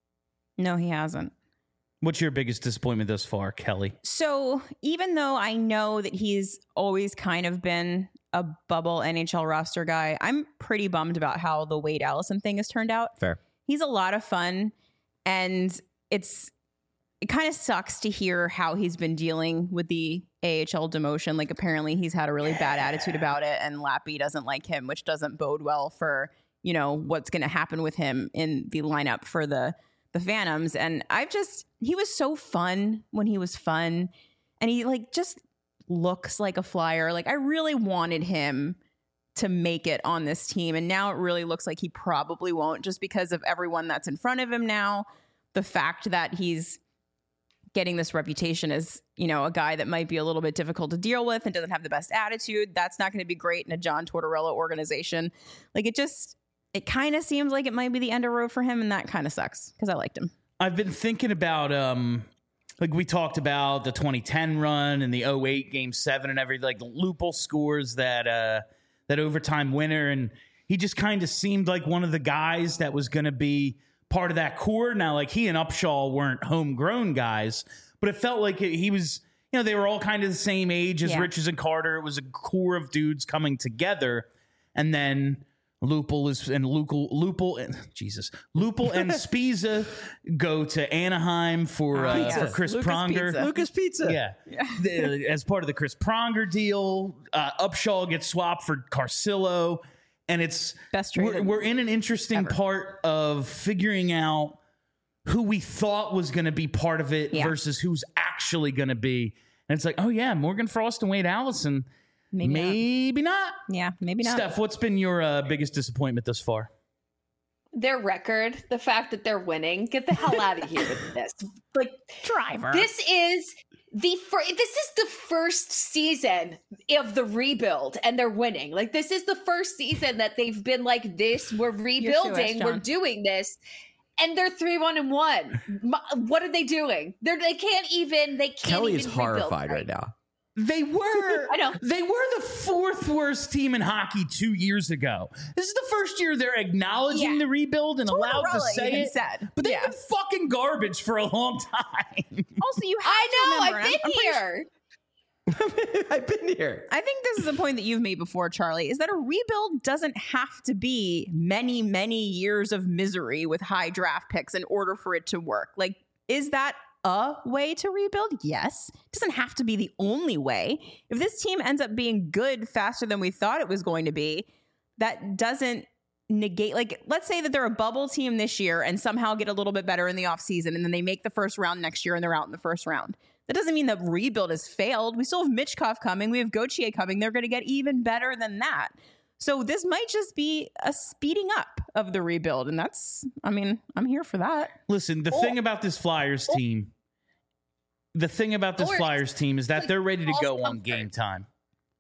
No, he hasn't. What's your biggest disappointment thus far, Kelly? So even though I know that he's always kind of been a bubble NHL roster guy, I'm pretty bummed about how the Wade Allison thing has turned out. Fair. He's a lot of fun, and it kind of sucks to hear how he's been dealing with the AHL demotion. Like, apparently he's had a really bad attitude about it, and Lappy doesn't like him, which doesn't bode well for, you know, what's going to happen with him in the lineup for the Phantoms. And he was so fun when he was fun, and he like just looks like a flyer. Like, I really wanted him to make it on this team, and now it really looks like he probably won't, just because of everyone that's in front of him now. The fact that he's getting this reputation as, you know, a guy that might be a little bit difficult to deal with and doesn't have the best attitude, that's not going to be great in a John Tortorella organization. Like, it kind of seems like it might be the end of road for him, and that kind of sucks because I liked him. I've been thinking about, like we talked about the 2010 run and the 08 Game 7 and everything. Like, Lupul scores that overtime winner, and he just kind of seemed like one of the guys that was going to be part of that core. Now, like, he and Upshaw weren't homegrown guys, but it felt like he was, you know, they were all kind of the same age as Richards and Carter. It was a core of dudes coming together, and then Lupul and Spiza go to Anaheim for Chris Lucas Pronger. Pizza. Lucas Pizza. Yeah. As part of the Chris Pronger deal, Upshaw gets swapped for Carcillo, and it's Best trade we're in an interesting part of figuring out who we thought was going to be part of it versus who's actually going to be. And it's like, oh yeah, Morgan Frost and Wade Allison. Maybe not. Yeah, maybe not. Steph, what's been your biggest disappointment thus far? Their record, the fact that they're winning. Get the hell out of here with this. Like, Driver. This is the first season of the rebuild, and they're winning. Like, this is the first season that they've been like this. We're rebuilding. We're doing this. And they're 3-1-1. What are they doing? They can't even. Kelly is even horrified rebuild, right now. They were. I know. They were the 4th worst team in hockey 2 years ago. This is the first year they're acknowledging the rebuild and allowed to say it. But they've been fucking garbage for a long time. Also, you have to remember, I've been I'm pretty here. I've been here. I think this is a point that you've made before, Charlie, is that a rebuild doesn't have to be many, many years of misery with high draft picks in order for it to work. Like, is that a way to rebuild? Yes. It doesn't have to be the only way. If this team ends up being good faster than we thought it was going to be, that doesn't negate, like, let's say that they're a bubble team this year and somehow get a little bit better in the offseason, and then they make the first round next year and they're out in the first round. That doesn't mean that rebuild has failed. We still have Michkov coming. We have Gauthier coming. They're going to get even better than that. So this might just be a speeding up of the rebuild. And that's, I mean, I'm here for that. Listen, the thing about this Flyers team, is that they're ready to go on game time.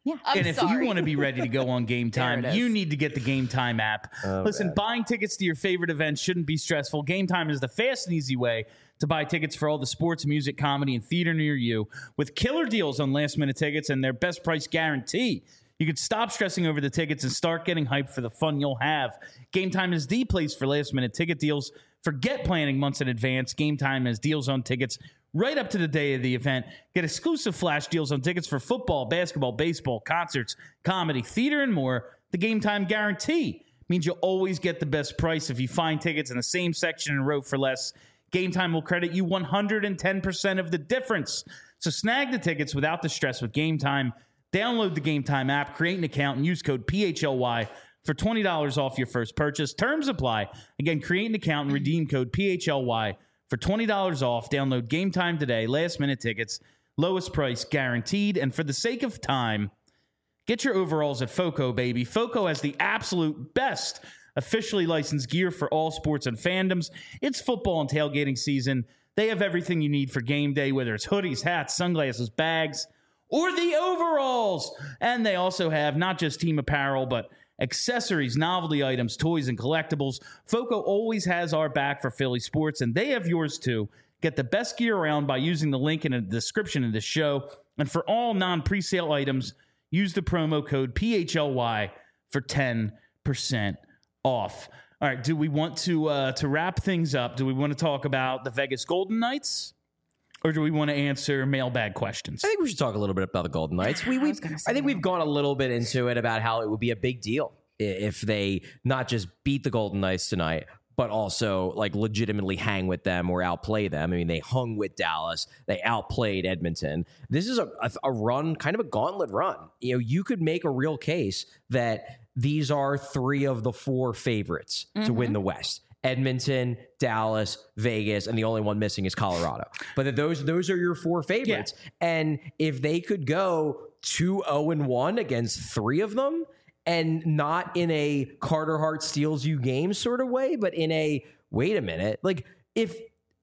Yeah. And if you want to be ready to go on Game Time, There it is. you need to get the Game Time app. Listen, buying tickets to your favorite events shouldn't be stressful. Game Time is the fast and easy way to buy tickets for all the sports, music, comedy, and theater near you. With killer deals on last-minute tickets and their best price guarantee, you could stop stressing over the tickets and start getting hyped for the fun you'll have. Game Time is the place for last-minute ticket deals. Forget planning months in advance. Game Time has deals on tickets right up to the day of the event. Get exclusive flash deals on tickets for football, basketball, baseball, concerts, comedy, theater, and more. The Game Time guarantee means you'll always get the best price. If you find tickets in the same section and row for less, Game Time will credit you 110% of the difference. So snag the tickets without the stress with Game Time. Download the Game Time app, create an account, and use code PHLY for $20 off your first purchase. Terms apply. Again, create an account and redeem code PHLY for $20 off. Download Game Time today. Last-minute tickets, lowest price guaranteed. And for the sake of time, get your overalls at FOCO, baby. FOCO has the absolute best officially licensed gear for all sports and fandoms. It's football and tailgating season. They have everything you need for game day, whether it's hoodies, hats, sunglasses, bags, or the overalls. And they also have not just team apparel, but accessories, novelty items, toys, and collectibles. FOCO always has our back for Philly sports, and they have yours too. Get the best gear around by using the link in the description of this show. And for all non-presale items, use the promo code PHLY for 10% off. All right, do we want to wrap things up? Do we want to talk about the Vegas Golden Knights? Or do we want to answer mailbag questions? I think we should talk a little bit about the Golden Knights. I think we've gone a little bit into it about how it would be a big deal if they not just beat the Golden Knights tonight, but also like legitimately hang with them or outplay them. I mean, they hung with Dallas. They outplayed Edmonton. This is a run, kind of a gauntlet run. You know, you could make a real case that these are 3 of the 4 favorites to win the West. Edmonton, Dallas, Vegas, and the only one missing is Colorado. But those are your 4 favorites. Yeah. And if they could go 2-0-1 against 3 of them, and not in a Carter Hart steals you game sort of way, but in a wait a minute, like if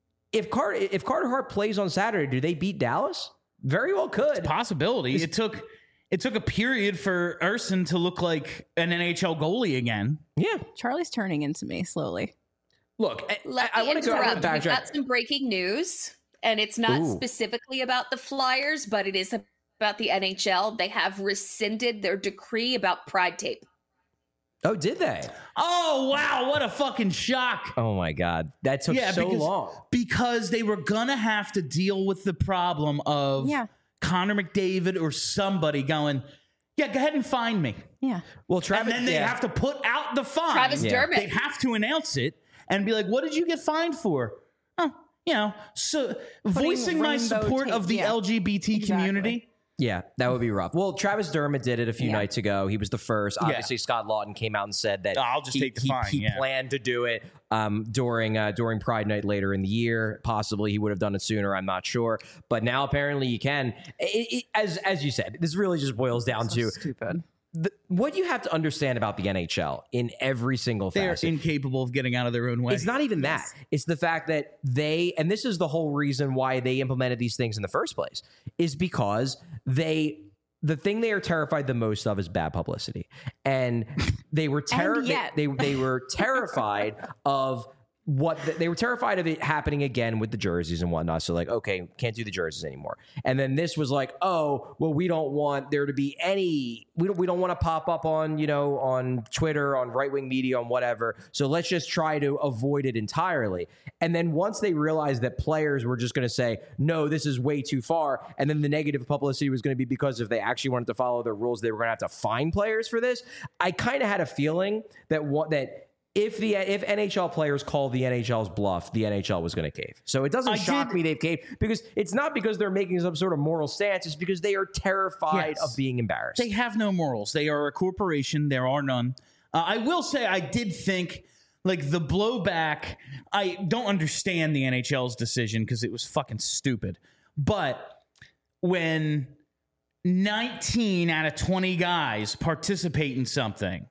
Carter Hart plays on Saturday, do they beat Dallas? Very well could. It's a possibility. It took a period for Urson to look like an NHL goalie again. Yeah, Charlie's turning into me slowly. Look, I want to interrupt. We've got some breaking news, and it's not specifically about the Flyers, but it is about the NHL. They have rescinded their decree about Pride tape. Oh, did they? Oh, wow. What a fucking shock. Oh, my God. That took so long. Because they were going to have to deal with the problem of Connor McDavid or somebody going, go ahead and find me. Yeah. Well, Travis, and then they have to put out the fine. Travis Dermott. They have to announce it and be like, what did you get fined for? Oh, so voicing my support of the LGBT community. Yeah, that would be rough. Well, Travis Dermott did it a few nights ago. He was the first. Obviously, Scott Lawton came out and said that I'll just take the fine. He planned to do it during Pride Night later in the year. Possibly he would have done it sooner. I'm not sure. But now apparently you can. As you said, this really just boils down to stupid. What you have to understand about the NHL in every single facet. They're incapable of getting out of their own way. It's not even that. It's the fact that and this is the whole reason why they implemented these things in the first place, is because the thing they are terrified the most of is bad publicity. And they were they were terrified of they were terrified of it happening again with the jerseys and whatnot. So like, okay, can't do the jerseys anymore. And then this was like, oh, well, we don't want there to be we don't want to pop up on, on Twitter, on right-wing media, on whatever. So let's just try to avoid it entirely. And then once they realized that players were just going to say, no, this is way too far. And then the negative publicity was going to be because if they actually wanted to follow their rules, they were going to have to fine players for this. I kind of had a feeling that if NHL players call the NHL's bluff, the NHL was going to cave. So it doesn't shock me they've caved, because it's not because they're making some sort of moral stance. It's because they are terrified of being embarrassed. They have no morals. They are a corporation. There are none. I will say I did think, like, the blowback, I don't understand the NHL's decision because it was fucking stupid. But when 19 out of 20 guys participate in something,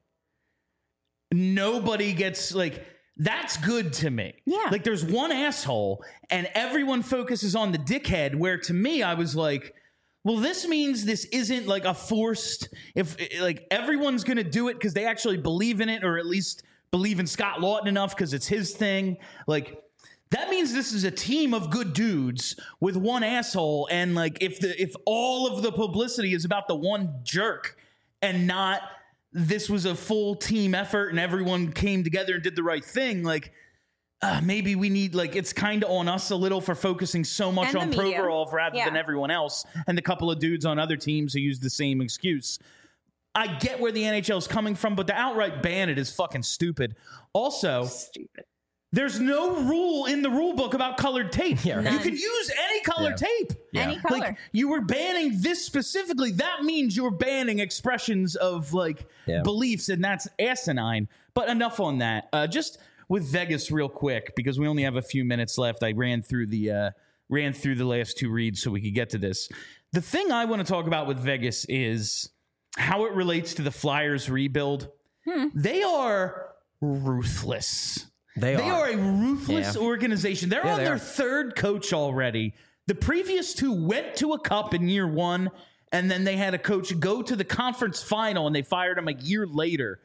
nobody gets, like, that's good to me. Yeah. Like, there's one asshole and everyone focuses on the dickhead, where to me, I was like, well, this means this isn't like a forced, if like everyone's going to do it because they actually believe in it, or at least believe in Scott Lawton enough because it's his thing. Like, that means this is a team of good dudes with one asshole. And like, if all of the publicity is about the one jerk and not this was a full team effort and everyone came together and did the right thing, like, maybe we need, like, it's kind of on us a little for focusing so much on Provorov rather than everyone else, and the couple of dudes on other teams who use the same excuse. I get where the NHL is coming from, but to outright ban it is fucking stupid. Also, there's no rule in the rule book about colored tape. You can use any colored tape. Any color. Like, you were banning this specifically. That means you're banning expressions of like beliefs, and that's asinine. But enough on that. Just with Vegas real quick, because we only have a few minutes left. I ran through the last two reads so we could get to this. The thing I want to talk about with Vegas is how it relates to the Flyers rebuild. They are ruthless. They are a ruthless organization. They're on their third coach already. The previous two went to a cup in year one, and then they had a coach go to the conference final, and they fired him a year later.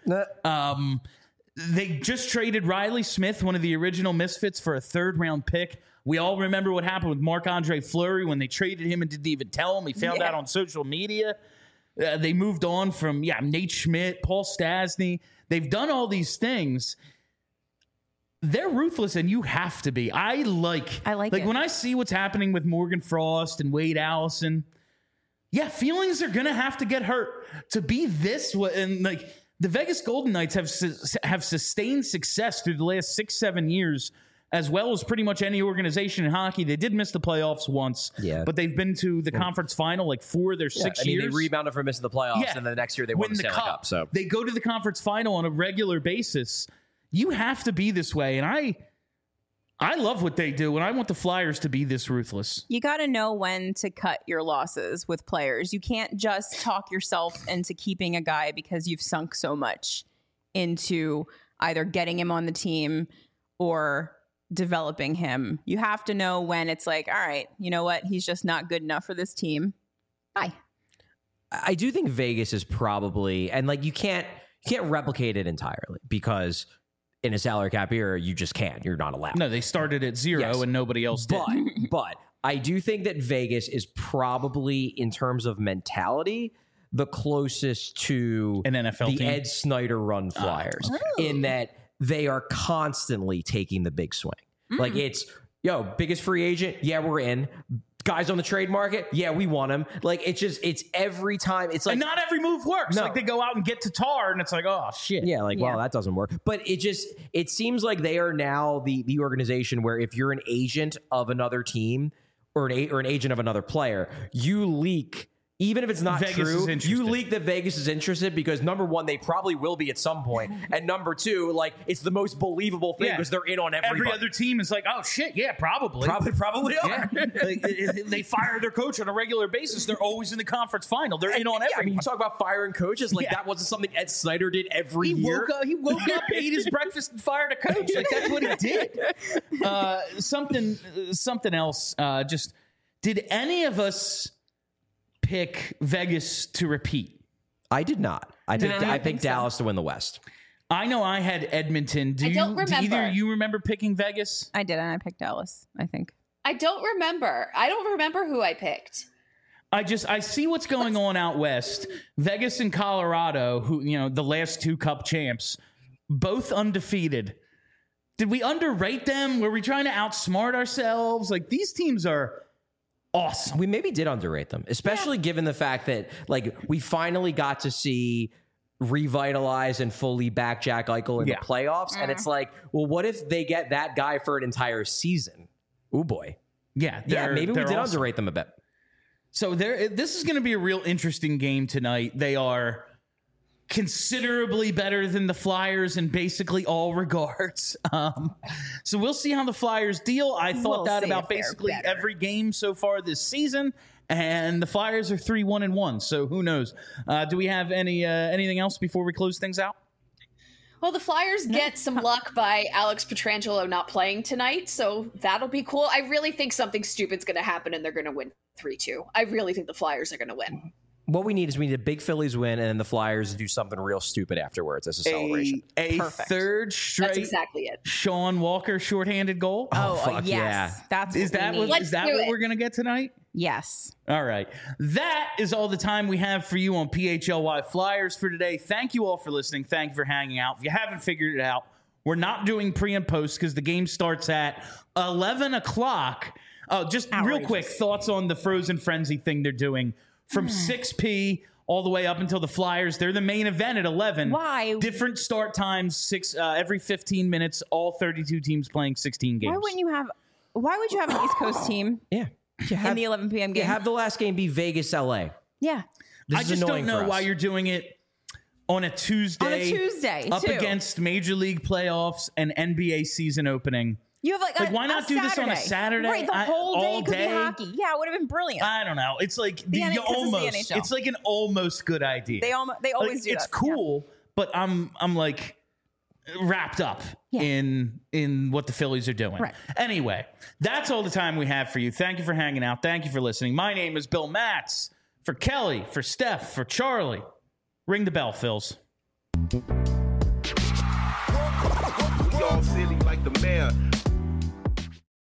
They just traded Riley Smith, one of the original Misfits, for a third-round pick. We all remember what happened with Marc-Andre Fleury when they traded him and didn't even tell him. He found out on social media. They moved on from, Nate Schmidt, Paul Stastny. They've done all these things. They're ruthless, and you have to be. I like it. When I see what's happening with Morgan Frost and Wade Allison, feelings are going to have to get hurt to be this way. And like, the Vegas Golden Knights have sustained success through the last 6-7 years, as well as pretty much any organization in hockey. They did miss the playoffs once, but they've been to the conference final like 4 of their 6 years. They rebounded from missing the playoffs, and then the next year they won the Stanley Cup. So they go to the conference final on a regular basis. You have to be this way, and I love what they do, and I want the Flyers to be this ruthless. You got to know when to cut your losses with players. You can't just talk yourself into keeping a guy because you've sunk so much into either getting him on the team or developing him. You have to know when it's like, all right, you know what? He's just not good enough for this team. Bye. I do think Vegas is probably, and like you can't replicate it entirely because in a salary cap era, you just can't. You're not allowed. No, they started at 0 and nobody else did. But I do think that Vegas is probably, in terms of mentality, the closest to an NFL team. Ed Snyder run Flyers, in that they are constantly taking the big swing. Like it's, biggest free agent. Yeah, we're in. Guys on the trade market, we want him. Like it's every time. It's like, and not every move works. Like they go out and get Tatar, and it's like, oh shit. Well, that doesn't work. But it seems like they are now the organization where if you're an agent of another team or an agent of another player, you leak. Even if it's not true, you leak that Vegas is interested because, number one, they probably will be at some point. And number two, like, it's the most believable thing because they're in on everybody. Every other team is like, oh, shit, probably. Probably are. They fire their coach on a regular basis. They're always in the conference final. They're in on everybody. I mean, you talk about firing coaches. Like, that wasn't something Ed Snyder did every year. He woke up, ate his breakfast, and fired a coach. Like, that's what he did. Something else. Did any of us pick Vegas to repeat? I did not. I picked Dallas to win the West. I know I had Edmonton. I don't remember. Do either of you remember picking Vegas? I didn't. I picked Dallas, I think. I don't remember. I don't remember who I picked. I see what's going on out west. Vegas and Colorado, who, the last 2 cup champs, both undefeated. Did we underrate them? Were we trying to outsmart ourselves? Like, these teams are awesome. We maybe did underrate them, especially given the fact that, like, we finally got to see revitalize and fully back Jack Eichel in the playoffs. And it's like, well, what if they get that guy for an entire season? Ooh, boy. Maybe we did underrate them a bit. So this is going to be a real interesting game tonight. They are considerably better than the Flyers in basically all regards. So we'll see how the Flyers deal. I thought that about basically every game so far this season, and the Flyers are 3-1-1. So who knows? Do we have anything else before we close things out? Well, the Flyers get some luck by Alex Pietrangelo not playing tonight, so that'll be cool. I really think something stupid's going to happen and they're going to win 3-2. I really think the Flyers are going to win. What we need is we need a big Phillies win and then the Flyers do something real stupid afterwards as a celebration. A Perfect. third straight That's exactly it. Sean Walker shorthanded goal. fuck yes. yeah. That's Is that what, Let's is that do what it. we're going to get tonight? Yes. All right. That is all the time we have for you on PHLY Flyers for today. Thank you all for listening. Thank you for hanging out. If you haven't figured it out, we're not doing pre and post because the game starts at 11 o'clock. Oh, just real quick, thoughts on the Frozen Frenzy thing they're doing from 6p all the way up until the Flyers. They're the main event at 11. Why? Different start times, every 15 minutes, all 32 teams playing 16 games. Why would you have an East Coast team Yeah. in the 11 p.m. game? Have the last game be Vegas, LA. Yeah. This I is just don't annoying know for us. why you're doing it on a Tuesday. On a Tuesday, up too. against Major League playoffs and NBA season opening. You have Why not do this on a Saturday? Right, the whole day all could day? be hockey. Yeah, it would have been brilliant. I don't know. It's like The NHL, 'cause it's the almost. NHL. It's like an almost good idea. They always do It's that. cool, but I'm like wrapped up in what the Phillies are doing. Right. Anyway, that's all the time we have for you. Thank you for hanging out. Thank you for listening. My name is Bill Matz. For Kelly, for Steph, for Charlie. Ring the bell, Phils. We all silly like the mayor.